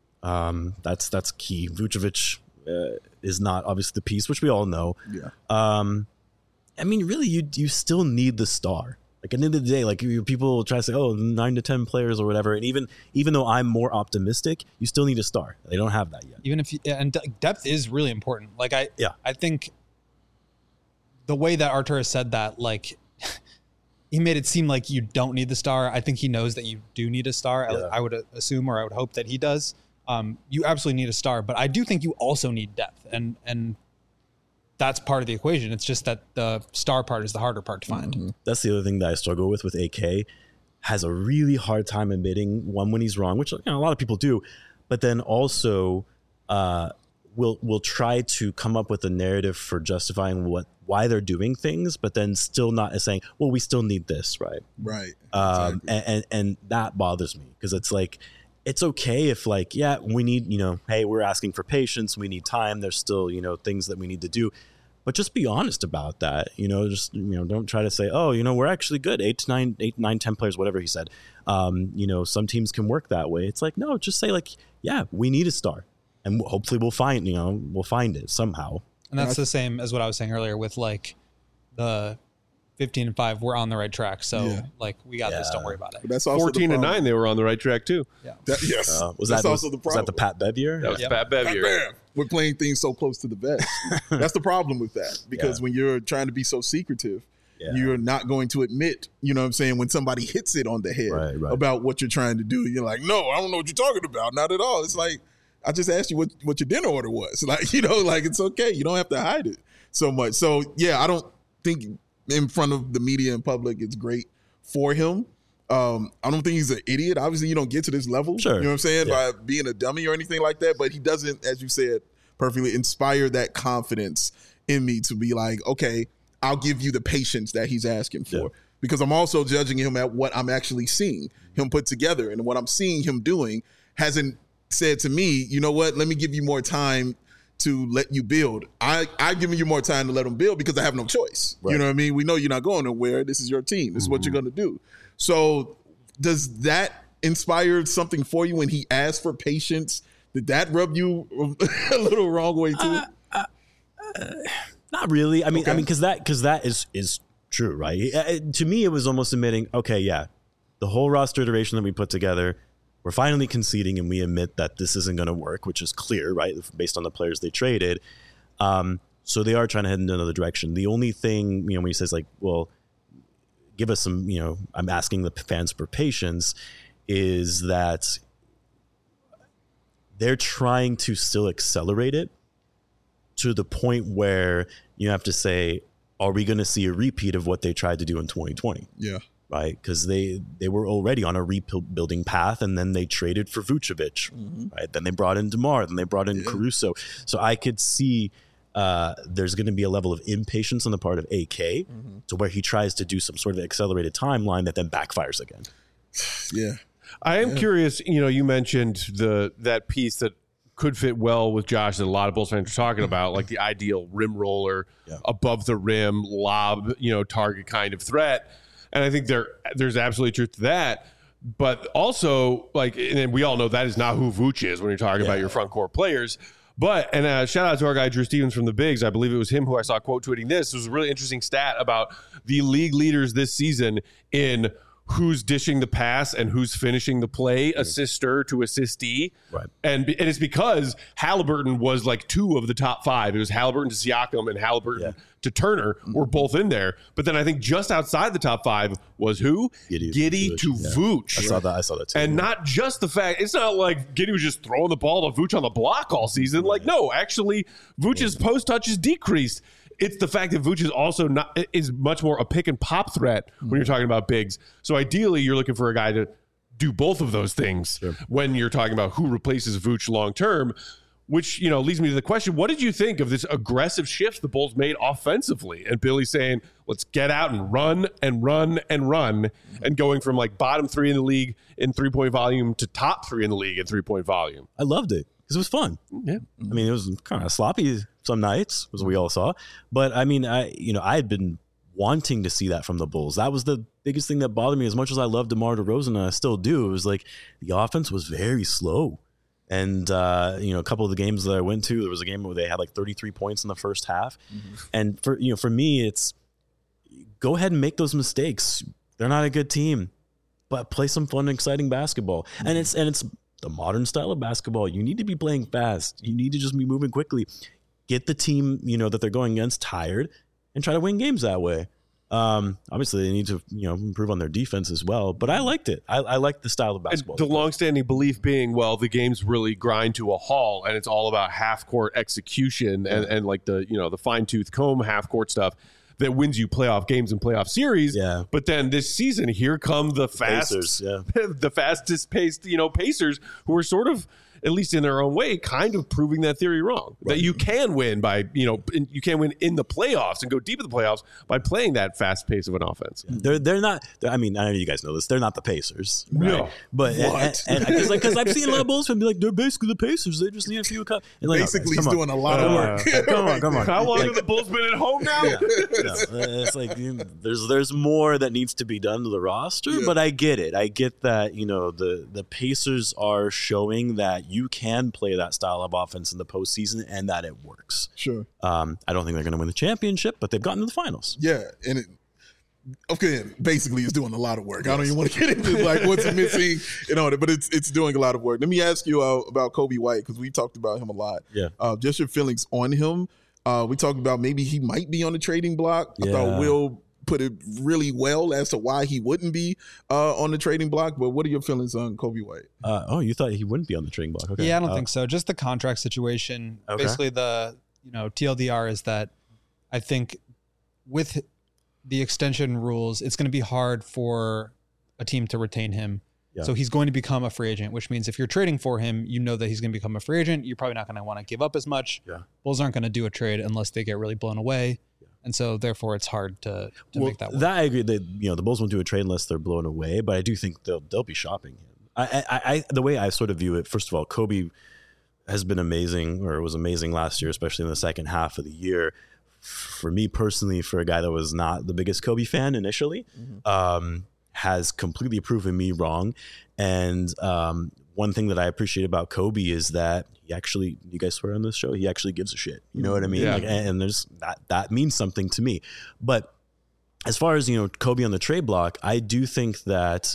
Speaker 3: That's key. Vucevic is not obviously the piece, which we all know.
Speaker 2: Yeah.
Speaker 3: I mean, really, you still need the star. Like at the end of the day, like people try to say, 9 to 10 players or whatever, and even though I'm more optimistic, you still need a star. They don't have that yet.
Speaker 4: Even if and depth is really important. Like I think the way that Artur said that, like he made it seem like you don't need the star. I think he knows that you do need a star.
Speaker 3: Yeah.
Speaker 4: I would assume, or I would hope that he does. You absolutely need a star, but I do think you also need depth, and that's part of the equation. It's just that the star part is the harder part to find.
Speaker 2: Mm-hmm.
Speaker 3: That's the other thing that I struggle with AK. Has a really hard time admitting when he's wrong, which a lot of people do, but then also will try to come up with a narrative for justifying why they're doing things, but then still not saying, well, we still need this, right?
Speaker 2: Right.
Speaker 3: Exactly. And that bothers me because it's like, it's okay if like, yeah, we need, hey, we're asking for patience. We need time. There's still, things that we need to do, but just be honest about that. Don't try to say, we're actually good. 8, 9, 10 players, whatever he said. Some teams can work that way. It's like, no, just say like, yeah, we need a star and hopefully we'll find it somehow.
Speaker 4: And that's the same as what I was saying earlier with like the 15-5, we're on the right track. So like we got this. Don't worry about it.
Speaker 2: But that's also
Speaker 1: 14-9, they were on the right track too.
Speaker 4: Yeah.
Speaker 2: Yes.
Speaker 3: Was
Speaker 2: that's
Speaker 3: that
Speaker 2: also the problem.
Speaker 3: Was that the Pat Bev year?
Speaker 1: That was Pat Bev year.
Speaker 2: Bam. We're playing things so close to the vest. That's the problem with that. Because when you're trying to be so secretive, you're not going to admit, when somebody hits it on the head about what you're trying to do. You're like, no, I don't know what you're talking about. Not at all. It's like, I just asked you what your dinner order was. Like, like it's okay. You don't have to hide it so much. So I don't think in front of the media and public it's great for him. I don't think he's an idiot. Obviously, you don't get to this level,
Speaker 3: sure.
Speaker 2: You know what I'm saying, by being a dummy or anything like that. But he doesn't, as you said perfectly, inspire that confidence in me to be like, okay, I'll give you the patience that he's asking for. Yeah. Because I'm also judging him at what I'm actually seeing him put together. And what I'm seeing him doing hasn't said to me, you know what, let me give you more time to let you build. I giving you more time to let them build because I have no choice. Right. You know what I mean? We know you're not going nowhere. This is your team. This is what you're going to do. So does that inspire something for you when he asked for patience? Did that rub you a little wrong way too?
Speaker 3: Not really. I mean, because that is true, right? To me, it was almost admitting, okay, the whole roster iteration that we put together, we're finally conceding and we admit that this isn't going to work, which is clear, right? Based on the players they traded. So they are trying to head in another direction. The only thing, when he says like, well, give us some, I'm asking the fans for patience, is that they're trying to still accelerate it to the point where you have to say, are we going to see a repeat of what they tried to do in 2020?
Speaker 2: Yeah.
Speaker 3: Right, because they were already on a rebuilding path, and then they traded for Vucevic. Mm-hmm. Right, then they brought in DeMar, then they brought in Caruso. So I could see there's going to be a level of impatience on the part of AK to where he tries to do some sort of accelerated timeline that then backfires again.
Speaker 2: Yeah,
Speaker 1: I am curious. You mentioned that piece that could fit well with Josh that a lot of Bulls fans are talking about, like the ideal rim roller, above the rim lob, target kind of threat. And I think there's absolutely truth to that. But also, and we all know that is not who Vooch is when you're talking about your front court players. But, and shout out to our guy, Drew Stevens from the Bigs. I believe it was him who I saw quote tweeting this. It was a really interesting stat about the league leaders this season in who's dishing the pass and who's finishing the play, assister to assistee.
Speaker 3: Right.
Speaker 1: And it's because Halliburton was like 2 of the top 5. It was Halliburton to Siakam and Halliburton to Turner were both in there. But then I think just outside the top 5 was who? Giddey to Vooch.
Speaker 3: I saw that too.
Speaker 1: And not just the fact, it's not like Giddey was just throwing the ball to Vooch on the block all season. Like, no, actually, Vooch's post touches decreased. It's the fact that Vooch is much more a pick and pop threat when you're talking about bigs. So ideally, you're looking for a guy to do both of those things when you're talking about who replaces Vooch long term. which, leads me to the question, what did you think of this aggressive shift the Bulls made offensively? And Billy saying, let's get out and run and run and run, and going from like bottom 3 in the league in 3-point volume to top 3 in the league in 3-point volume.
Speaker 3: I loved it because it was fun.
Speaker 1: Yeah.
Speaker 3: I mean, it was kind of sloppy some nights, as we all saw. But I mean, I had been wanting to see that from the Bulls. That was the biggest thing that bothered me. As much as I love DeMar DeRozan, and I still do, it was like the offense was very slow. And, a couple of the games that I went to, there was a game where they had like 33 points in the first half. And for me, it's go ahead and make those mistakes. They're not a good team, but play some fun and exciting basketball. And it's the modern style of basketball. You need to be playing fast. You need to just be moving quickly. Get the team, that they're going against tired and try to win games that way. Obviously they need to, improve on their defense as well, but I liked it. I liked the style of basketball.
Speaker 1: And the longstanding belief being, well, the games really grind to a halt and it's all about half court execution and like the, the fine tooth comb half court stuff that wins you playoff games and playoff series.
Speaker 3: Yeah.
Speaker 1: But then this season, here come the
Speaker 3: Pacers,
Speaker 1: the fastest paced, Pacers, who are sort of, at least in their own way, kind of proving that theory wrong. Right. That you can win by, you can win in the playoffs and go deep in the playoffs by playing that fast pace of an offense.
Speaker 3: They're not. I mean, I know you guys know this. They're not the Pacers, right?
Speaker 1: No,
Speaker 3: but because I've seen a lot of Bulls fans be like, they're basically the Pacers. They just need a few cups.
Speaker 2: Like, basically, he's doing a lot of work.
Speaker 3: Come on.
Speaker 1: How long have the Bulls been at home now?
Speaker 3: No, it's like there's more that needs to be done to the roster, but I get it. I get that the Pacers are showing that you can play that style of offense in the postseason and that it works.
Speaker 2: Sure.
Speaker 3: I don't think they're going to win the championship, but they've gotten to the finals.
Speaker 2: Yeah, and basically it's doing a lot of work. Yes. I don't even want to get into like what's missing and all that, but it's doing a lot of work. Let me ask you about Coby White, because we talked about him a lot.
Speaker 3: Yeah.
Speaker 2: Just your feelings on him. We talked about maybe he might be on the trading block. I thought Will put it really well as to why he wouldn't be on the trading block. But what are your feelings on Coby White?
Speaker 3: You thought he wouldn't be on the trading block? Okay.
Speaker 4: Yeah, I don't think so. Just the contract situation.
Speaker 3: Okay.
Speaker 4: Basically, the TLDR is that I think with the extension rules, it's going to be hard for a team to retain him. Yeah. So he's going to become a free agent, which means if you're trading for him, that he's going to become a free agent. You're probably not going to want to give up as much.
Speaker 3: Yeah.
Speaker 4: Bulls aren't going to do a trade unless they get really blown away. And so, therefore, it's hard to make that work.
Speaker 3: That I agree. The Bulls won't do a trade unless they're blown away. But I do think they'll be shopping him. The way I sort of view it, first of all, Coby has been amazing, or was amazing last year, especially in the second half of the year. For me personally, for a guy that was not the biggest Coby fan initially, has completely proven me wrong. And one thing that I appreciate about Coby is that he actually, you guys swear on this show, he actually gives a shit. You know what I mean?
Speaker 1: Yeah.
Speaker 3: And there's that means something to me. But as far as, Coby on the trade block, I do think that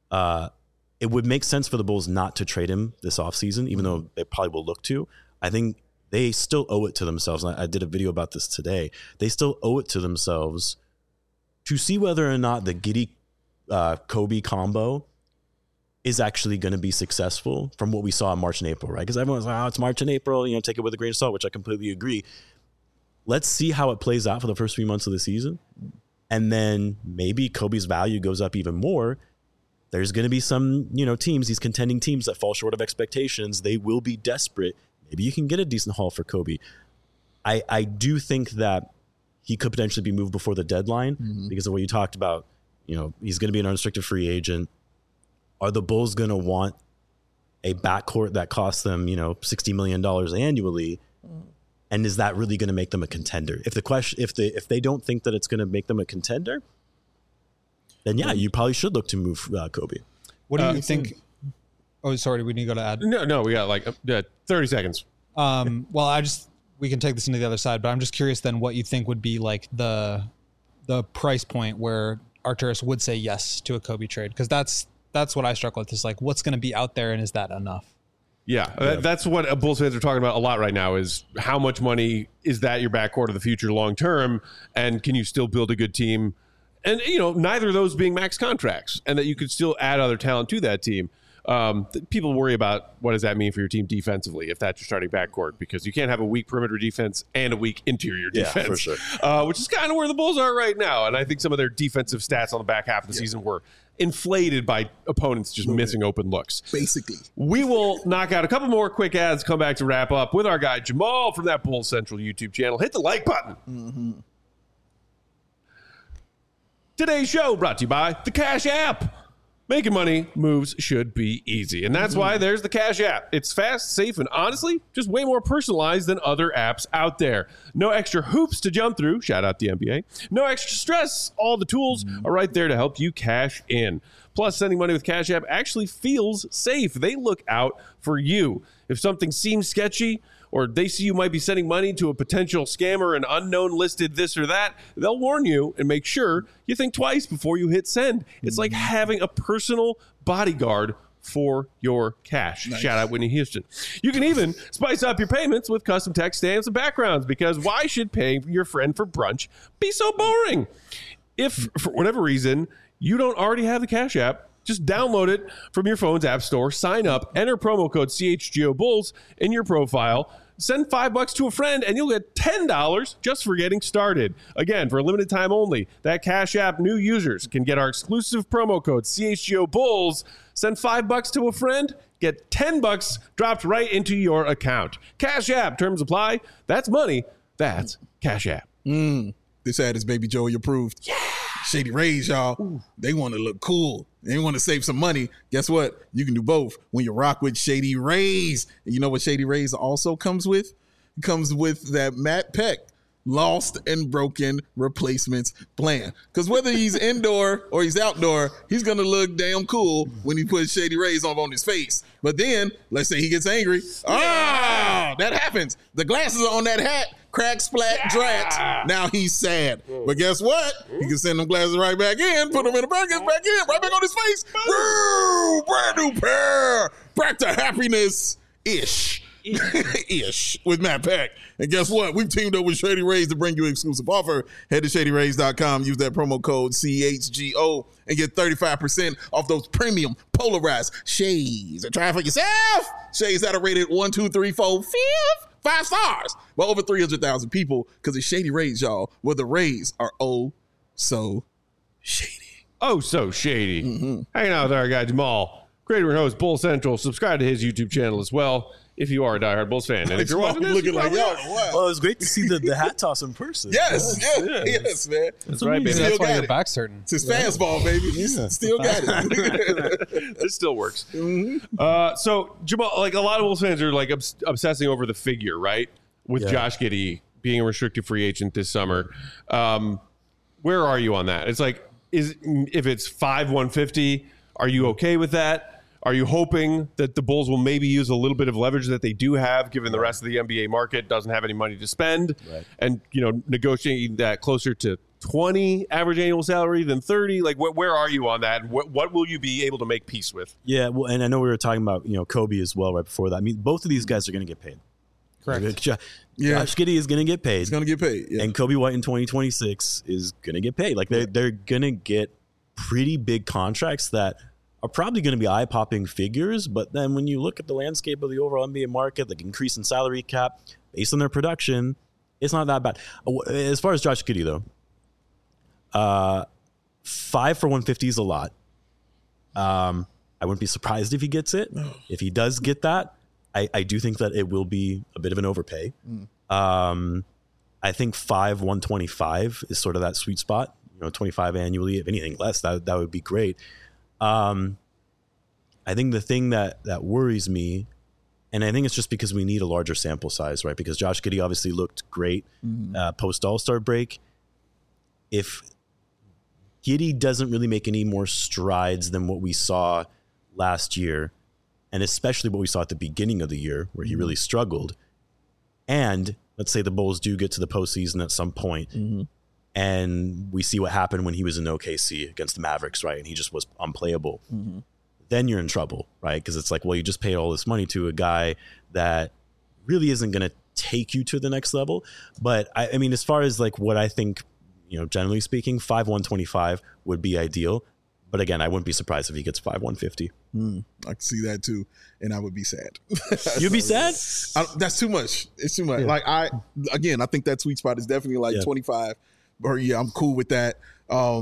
Speaker 3: it would make sense for the Bulls not to trade him this offseason, even though they probably will look to. I think they still owe it to themselves. I did a video about this today. They still owe it to themselves to see whether or not the Giddey Coby combo is actually going to be successful from what we saw in March and April, right? Because everyone's like, it's March and April, take it with a grain of salt, which I completely agree. Let's see how it plays out for the first 3 months of the season. And then maybe Coby's value goes up even more. There's going to be some, teams, these contending teams that fall short of expectations. They will be desperate. Maybe you can get a decent haul for Coby. I do think that he could potentially be moved before the deadline because of what you talked about. He's going to be an unrestricted free agent. Are the Bulls going to want a backcourt that costs them, $60 million annually? And is that really going to make them a contender? If they don't think that it's going to make them a contender, then you probably should look to move Coby.
Speaker 4: What do you think? Oh, sorry, we need to go to ad.
Speaker 1: No, we got like 30 seconds.
Speaker 4: Well, we can take this into the other side, but I'm just curious then what you think would be like the price point where Arturas would say yes to a Coby trade, because that's what I struggle with. Is like, what's going to be out there, and is that enough?
Speaker 1: Yeah, that's what Bulls fans are talking about a lot right now, is how much money is that your backcourt of the future long term, and can you still build a good team? And, neither of those being max contracts, and that you could still add other talent to that team. People worry about what does that mean for your team defensively if that's your starting backcourt, because you can't have a weak perimeter defense and a weak interior defense,
Speaker 3: for sure.
Speaker 1: Which is kind of where the Bulls are right now. And I think some of their defensive stats on the back half of the season were inflated by opponents just missing open looks.
Speaker 2: Basically.
Speaker 1: We will knock out a couple more quick ads, come back to wrap up with our guy Jamal from that Bulls Central YouTube channel. Hit the like button. Mm-hmm. Today's show brought to you by the Cash App. Making money moves should be easy, and that's why there's the Cash App. It's fast, safe, and honestly, just way more personalized than other apps out there. No extra hoops to jump through. Shout out the NBA. No extra stress. All the tools are right there to help you cash in. Plus, sending money with Cash App actually feels safe. They look out for you. If something seems sketchy, or they see you might be sending money to a potential scammer, an unknown listed this or that, they'll warn you and make sure you think twice before you hit send. It's like having a personal bodyguard for your cash. Nice. Shout out Whitney Houston. You can even spice up your payments with custom text stamps and backgrounds, because why should paying your friend for brunch be so boring? If, for whatever reason, you don't already have the Cash App, just download it from your phone's app store, sign up, enter promo code CHGO Bulls in your profile, send $5 to a friend, and you'll get $10 just for getting started. Again, for a limited time only, that Cash App new users can get our exclusive promo code CHGO Bulls, send $5 to a friend, get $10 dropped right into your account. Cash App, terms apply. That's money. That's Cash App.
Speaker 2: This ad is Baby Joey approved. Yeah. Shady Rays, y'all. Ooh. They want to look cool. They want to save some money. Guess what? You can do both when you rock with Shady Rays. And you know what Shady Rays also comes with? It comes with that Matt Peck lost and broken replacements plan. Because whether he's indoor or he's outdoor, he's going to look damn cool when he puts Shady Rays on his face. But then, let's say he gets angry. That happens. The glasses are on that hat. Crack, splat, drat. Now he's sad. But guess what? He can send them glasses right back in, put them in the brackets, back in, right back on his face. Woo! Brand new pair. Back to happiness-ish. Ish with Matt Peck. And guess what? We've teamed up with Shady Rays to bring you an exclusive offer. Head to ShadyRays.com, use that promo code CHGO, and get 35% off those premium polarized shades. And try it for yourself. Shades that are rated 1, 2, 3, 4, 5 stars by over 300,000 people, because it's Shady Rays, y'all, where the Rays are oh so shady.
Speaker 1: Oh, so shady. Hanging out with our guy Jamal, creator and host, Bull Central. Subscribe to his YouTube channel as well if you are a diehard Bulls fan. And if you're watching this,
Speaker 2: looking like, wow.
Speaker 3: Well, it was great to see the hat toss in person.
Speaker 2: Yes, man.
Speaker 1: That's right, baby.
Speaker 4: That's why your back's hurting.
Speaker 2: It's his fast ball, baby. Still got it.
Speaker 1: This still works. So, Jamal, like a lot of Bulls fans are like obsessing over the figure, right? With Josh Giddey being a restricted free agent this summer. Where are you on that? It's like, if it's 5/150, are you okay with that? Are you hoping that the Bulls will maybe use a little bit of leverage that they do have, given the rest of the NBA market doesn't have any money to spend, and negotiating that closer to 20 average annual salary than 30? Like, where are you on that? What will you be able to make peace with?
Speaker 3: Yeah, well, and I know we were talking about Kobe as well right before that. I mean, both of these guys are going to get paid.
Speaker 4: Correct.
Speaker 3: Josh Giddey is going to get paid.
Speaker 2: He's going to get paid. Yeah.
Speaker 3: And Kobe White in 2026 is going to get paid. Like they're going to get pretty big contracts that are probably going to be eye-popping figures, but then when you look at the landscape of the overall NBA market, the increase in salary cap, based on their production, it's not that bad. As far as Josh Giddey, though, 5 for 150 is a lot. I wouldn't be surprised if he gets it. If he does get that, I do think that it will be a bit of an overpay. I think 125 is sort of that sweet spot. 25 annually. If anything less, that would be great. I think the thing that worries me, and I think it's just because we need a larger sample size, right? Because Josh Giddey obviously looked great post All-Star break. If Giddey doesn't really make any more strides than what we saw last year, and especially what we saw at the beginning of the year where he really struggled, and let's say the Bulls do get to the postseason at some point, and we see what happened when he was in OKC against the Mavericks, right? And he just was unplayable. Then you're in trouble, right? Because it's like, well, you just paid all this money to a guy that really isn't going to take you to the next level. But I mean, as far as like what I think, generally speaking, 5/125 would be ideal. But again, I wouldn't be surprised if he gets 5/150.
Speaker 2: I can see that too, and I would be sad.
Speaker 3: You'd be sad?
Speaker 2: That's too much. It's too much. Yeah. Like I think that sweet spot is definitely like 25. Or I'm cool with that.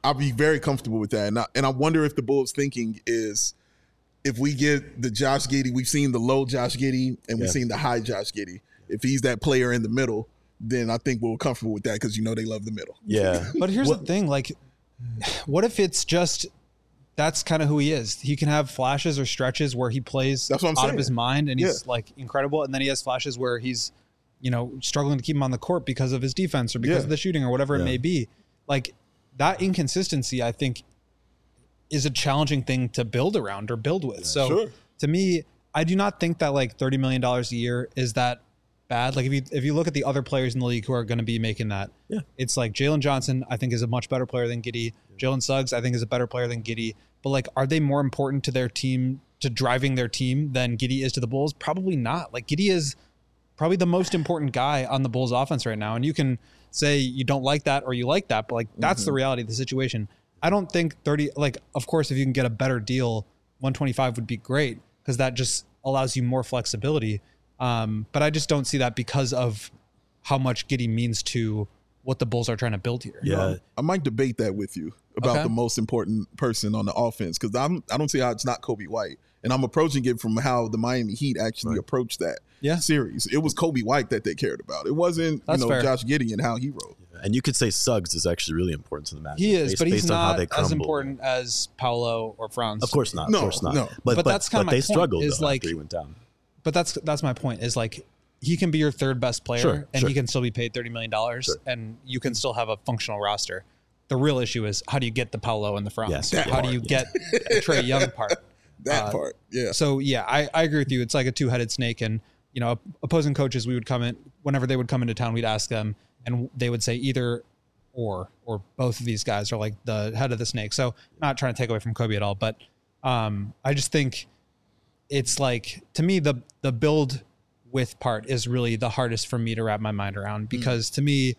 Speaker 2: I'll be very comfortable with that. And I wonder if the Bulls' thinking is, if we get the Josh Giddey, we've seen the low Josh Giddey and we've seen the high Josh Giddey. If he's that player in the middle, then I think we're comfortable with that because they love the middle.
Speaker 3: Yeah.
Speaker 4: But here's the thing, like, what if it's just that's kind of who he is? He can have flashes or stretches where he plays
Speaker 2: That's what I'm
Speaker 4: out
Speaker 2: saying.
Speaker 4: of his mind and he's like incredible, and then he has flashes where he's struggling to keep him on the court because of his defense or because of the shooting or whatever it may be. Like, that inconsistency, I think, is a challenging thing to build around or build with. So to me, I do not think that like $30 million a year is that bad. Like if you look at the other players in the league who are going to be making that, it's like Jalen Johnson, I think, is a much better player than Giddey. Jalen Suggs, I think, is a better player than Giddey. But like, are they more important to their team, to driving their team, than Giddey is to the Bulls? Probably not. Like, Giddey is probably the most important guy on the Bulls offense right now. And you can say you don't like that or you like that, but like, that's the reality of the situation. I don't think 30, like, of course, if you can get a better deal, 125 would be great because that just allows you more flexibility. But I just don't see that because of how much Giddey means to what the Bulls are trying to build here.
Speaker 3: Yeah.
Speaker 2: I might debate that with you about the most important person on the offense because I don't see how it's not Kobe White. And I'm approaching it from how the Miami Heat actually approached that series. It was Kobe White that they cared about. It wasn't Josh Giddey and how he rolled.
Speaker 3: And you could say Suggs is actually really important to the match.
Speaker 4: He is, but he's not as important as Paolo or Franz.
Speaker 3: Of course not.
Speaker 2: No,
Speaker 3: of course not.
Speaker 2: no.
Speaker 4: But that's kind of my
Speaker 3: they
Speaker 4: point,
Speaker 3: struggled
Speaker 4: is
Speaker 3: though,
Speaker 4: like,
Speaker 3: after he went down.
Speaker 4: But that's my point, is like, he can be your third best player and he can still be paid $30 million and you can still have a functional roster. The real issue is, how do you get the Paolo and the Franz? How do you get the Trae Young part?
Speaker 2: That part, yeah.
Speaker 4: So yeah, I agree with you. It's like a two-headed snake, and opposing coaches, we would come in whenever they would come into town, we'd ask them, and they would say either or both of these guys are like the head of the snake. So not trying to take away from Kobe at all, but I just think it's like, to me, the build with part is really the hardest for me to wrap my mind around, because to me,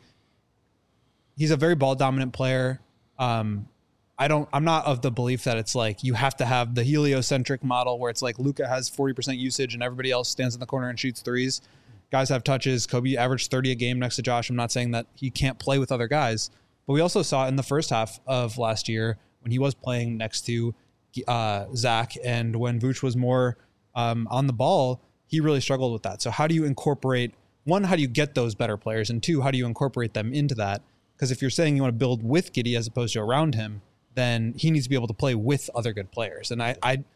Speaker 4: he's a very ball dominant player. I'm not of the belief that it's like you have to have the heliocentric model where it's like Luka has 40% usage and everybody else stands in the corner and shoots threes. Guys have touches. Kobe averaged 30 a game next to Josh. I'm not saying that he can't play with other guys, but we also saw in the first half of last year when he was playing next to Zach and when Vooch was more on the ball, he really struggled with that. So how do you incorporate, one, how do you get those better players? And two, how do you incorporate them into that? Because if you're saying you want to build with Giddey as opposed to around him, then he needs to be able to play with other good players. And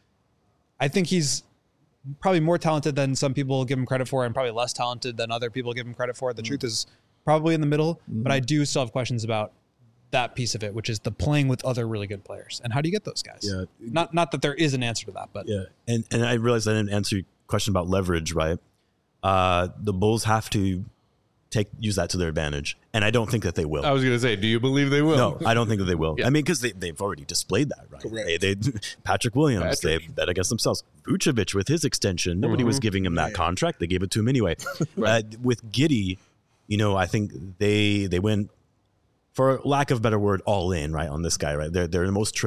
Speaker 4: I think he's probably more talented than some people give him credit for, and probably less talented than other people give him credit for. The truth is probably in the middle, but I do still have questions about that piece of it, which is the playing with other really good players. And how do you get those guys?
Speaker 3: Yeah.
Speaker 4: Not that there is an answer to that, but
Speaker 3: yeah. And I realized I didn't answer your question about leverage, right? The Bulls have to use that to their advantage, and I don't think that they will.
Speaker 1: I was going to say, do you believe they will?
Speaker 3: No, I don't think that they will.
Speaker 1: Yeah.
Speaker 3: I mean, because they've already displayed that, right?
Speaker 2: Correct.
Speaker 3: They Patrick Williams, they bet against themselves. Vucevic with his extension, nobody was giving him that contract. They gave it to him anyway. With Giddey, I think they went, for lack of a better word, all in, right, on this guy, right? They're the most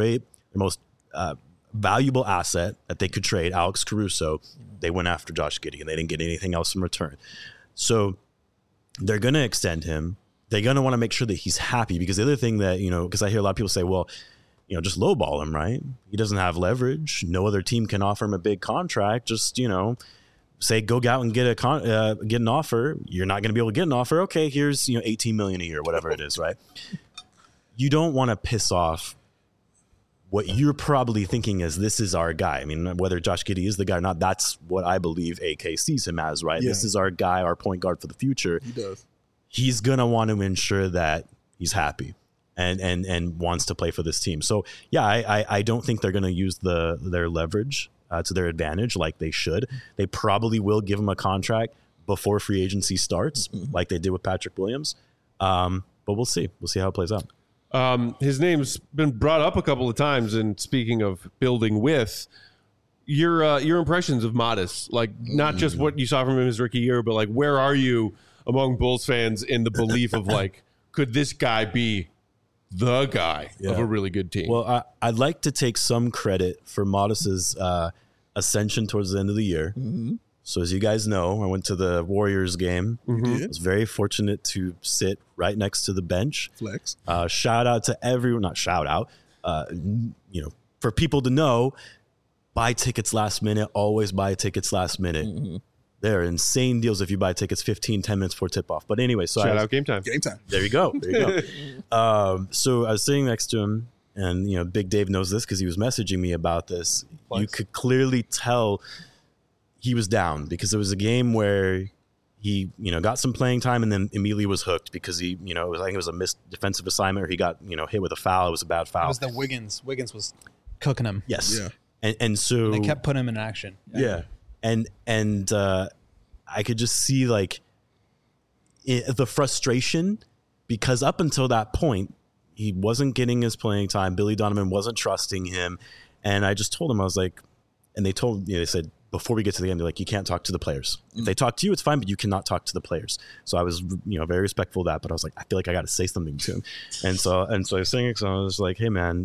Speaker 3: valuable asset that they could trade, Alex Caruso. They went after Josh Giddey, and they didn't get anything else in return. So they're going to extend him. They're going to want to make sure that he's happy, because the other thing that, because I hear a lot of people say, well, just lowball him, right? He doesn't have leverage. No other team can offer him a big contract. Just, say, go out and get an offer. You're not going to be able to get an offer. Okay, here's, $18 million a year, whatever it is, right? You don't want to piss off what you're probably thinking is, this is our guy. I mean, whether Josh Giddey is the guy or not, that's what I believe AK sees him as, right? Yeah. This is our guy, our point guard for the future.
Speaker 2: He does.
Speaker 3: He's going to want to ensure that he's happy and wants to play for this team. So, yeah, I don't think they're going to use their leverage to their advantage like they should. They probably will give him a contract before free agency starts, like they did with Patrick Williams. But we'll see. We'll see how it plays out.
Speaker 1: His name's been brought up a couple of times, and speaking of building with, your impressions of Modest, like not just what you saw from him his rookie year, but like where are you among Bulls fans in the belief of like, could this guy be the guy of a really good team?
Speaker 3: Well, I'd like to take some credit for Modest's ascension towards the end of the year. So as you guys know, I went to the Warriors game. I was very fortunate to sit right next to the bench.
Speaker 2: Flex.
Speaker 3: Shout out to everyone, not shout out, for people to know, buy tickets last minute, always buy tickets last minute. There are insane deals if you buy tickets 15, 10 minutes before tip-off. But anyway, so
Speaker 1: Shout out Game Time.
Speaker 2: Game Time.
Speaker 3: There you go. So I was sitting next to him, and Big Dave knows this because he was messaging me about this. You could clearly tell he was down because it was a game where he, got some playing time and then immediately was hooked because he, I think it was a missed defensive assignment or he got, hit with a foul. It was a bad foul.
Speaker 4: It was the Wiggins. Wiggins was cooking him.
Speaker 3: Yes.
Speaker 2: Yeah.
Speaker 3: And so
Speaker 4: They kept putting him in action.
Speaker 3: yeah. And I could just see the frustration because up until that point, he wasn't getting his playing time. Billy Donovan wasn't trusting him. And I just told him, I was like, and they said, before we get to the end, they're like, you can't talk to the players. If they talk to you, it's fine, but you cannot talk to the players. So I was, very respectful of that, but I was like, I feel like I got to say something to him. And so I was saying it, so I was like, hey man,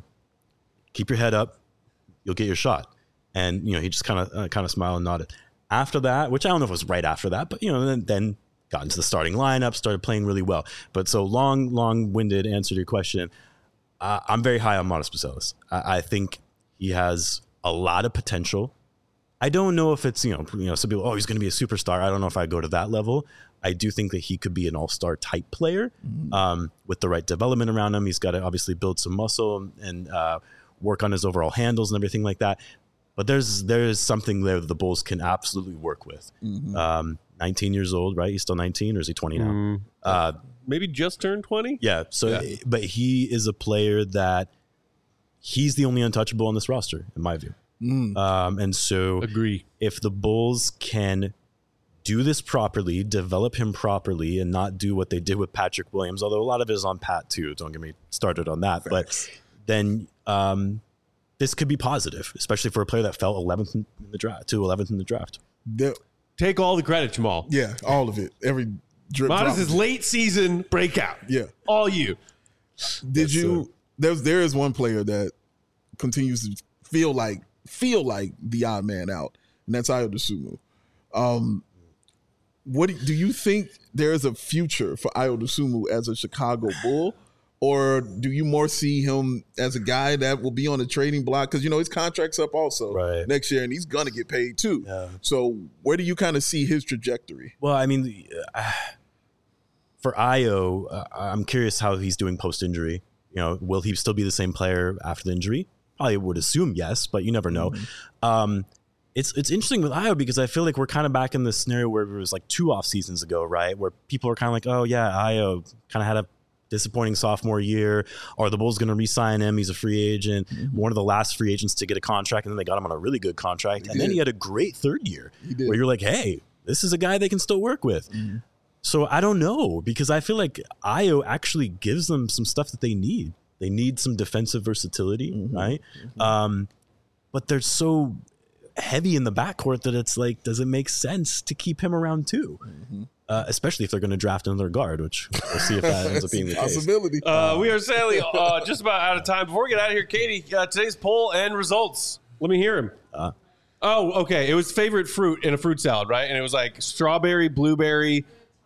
Speaker 3: keep your head up. You'll get your shot. And, he just kind of smiled and nodded. After that, which I don't know if it was right after that, but, then got into the starting lineup, started playing really well. But so long-winded answer to your question, I'm very high on Modest Baselis. I think he has a lot of potential. I don't know if it's, some people, he's going to be a superstar. I don't know if I go to that level. I do think that he could be an all-star type player with the right development around him. He's got to obviously build some muscle and work on his overall handles and everything like that. But there's something there that the Bulls can absolutely work with. 19 years old, right? He's still 19 or is he 20 now?
Speaker 1: Maybe just turned 20?
Speaker 3: Yeah. So, but he is a player that he's the only untouchable on this roster, in my view. And so
Speaker 1: Agree.
Speaker 3: If the Bulls can do this properly, develop him properly, and not do what they did with Patrick Williams, although a lot of it is on Pat too. Don't get me started on that. But then this could be positive, especially for a player that fell 11th in the draft.
Speaker 2: Take
Speaker 1: all the credit, Jamal.
Speaker 2: Yeah, all of it. Every drip.
Speaker 1: Modest is late season breakout.
Speaker 2: Yeah,
Speaker 1: all you.
Speaker 2: Did you? There is one player that continues to feel like the odd man out, and that's Ayo Dosunmu. What do you think there is a future for Ayo Dosunmu as a Chicago Bull, or do you more see him as a guy that will be on the trading block? Because his contract's up also next year, and he's gonna get paid too. Yeah. So where do you kind of see his trajectory?
Speaker 3: Well, I mean, for Ayo, I'm curious how he's doing post injury. Will he still be the same player after the injury? I would assume yes, but you never know. It's interesting with Ayo because I feel like we're kind of back in this scenario where it was like 2 off seasons ago, right? Where people are kind of like, oh yeah, Ayo kind of had a disappointing sophomore year. Are the Bulls going to re-sign him? He's a free agent, one of the last free agents to get a contract, and then they got him on a really good contract. And then he had a great third year where you're like, hey, this is a guy they can still work with. So I don't know because I feel like Ayo actually gives them some stuff that they need. They need some defensive versatility, right? But they're so heavy in the backcourt that it's like, does it make sense to keep him around too? Especially if they're going to draft another guard, which we'll see if that ends up being the
Speaker 2: possibility.
Speaker 3: case.
Speaker 1: We are sadly just about out of time. Before we get out of here, Katie, today's poll and results. Let me hear him. Okay. It was favorite fruit in a fruit salad, right? And it was like strawberry, blueberry.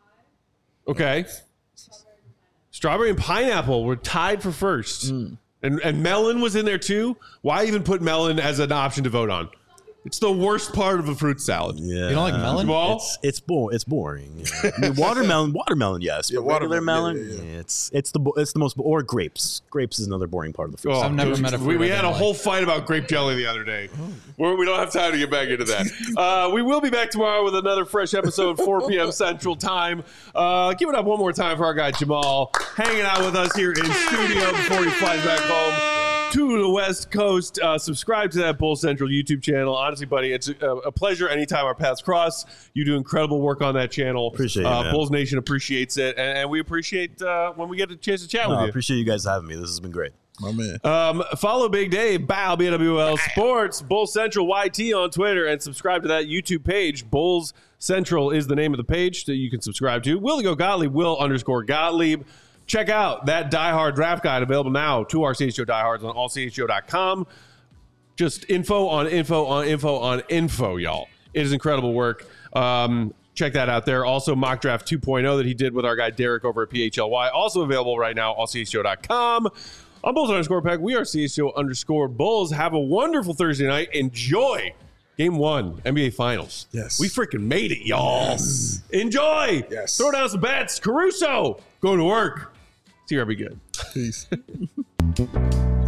Speaker 1: Okay. Strawberry and pineapple were tied for first. And melon was in there too. Why even put melon as an option to vote on? It's the worst part of a fruit salad.
Speaker 3: Yeah.
Speaker 4: You don't like melon?
Speaker 3: It's boring. I mean, watermelon, yes.
Speaker 2: Yeah,
Speaker 3: but regular melon, it's the most. Or grapes. Grapes is another boring part of the fruit salad.
Speaker 4: I've never met a fruit.
Speaker 1: We had a whole fight about grape jelly the other day. We don't have time to get back into that. We will be back tomorrow with another fresh episode, 4 p.m. Central Time. Give it up one more time for our guy Jamal, hanging out with us here in studio before he flies back home to the West Coast. Subscribe to that Bull Central YouTube channel. Honestly, buddy, it's a pleasure anytime our paths cross. You do incredible work on that channel.
Speaker 3: Appreciate it,
Speaker 1: Bulls Nation appreciates it, and we appreciate when we get a chance to chat with you.
Speaker 3: I appreciate you guys having me. This has been great.
Speaker 2: My man.
Speaker 1: Follow Big Dave, Bow, BWL Sports, Bull Central YT on Twitter, and subscribe to that YouTube page. Bulls Central is the name of the page that you can subscribe to. Will Gottlieb, Will_Gottlieb. Check out that Die Hard draft guide available now to our CHGO diehards on allchgo.com. Just info on info, y'all. It is incredible work. Check that out there. Also, Mock Draft 2.0 that he did with our guy Derek over at PHLY. Also available right now on CHGO.com. I'm Bulls_Pack. We are CHGO_Bulls. Have a wonderful Thursday night. Enjoy Game 1, NBA Finals.
Speaker 2: Yes.
Speaker 1: We freaking made it, y'all.
Speaker 2: Yes.
Speaker 1: Enjoy.
Speaker 2: Yes.
Speaker 1: Throw down some bets. Caruso, going to work. See you, be good.
Speaker 2: Peace.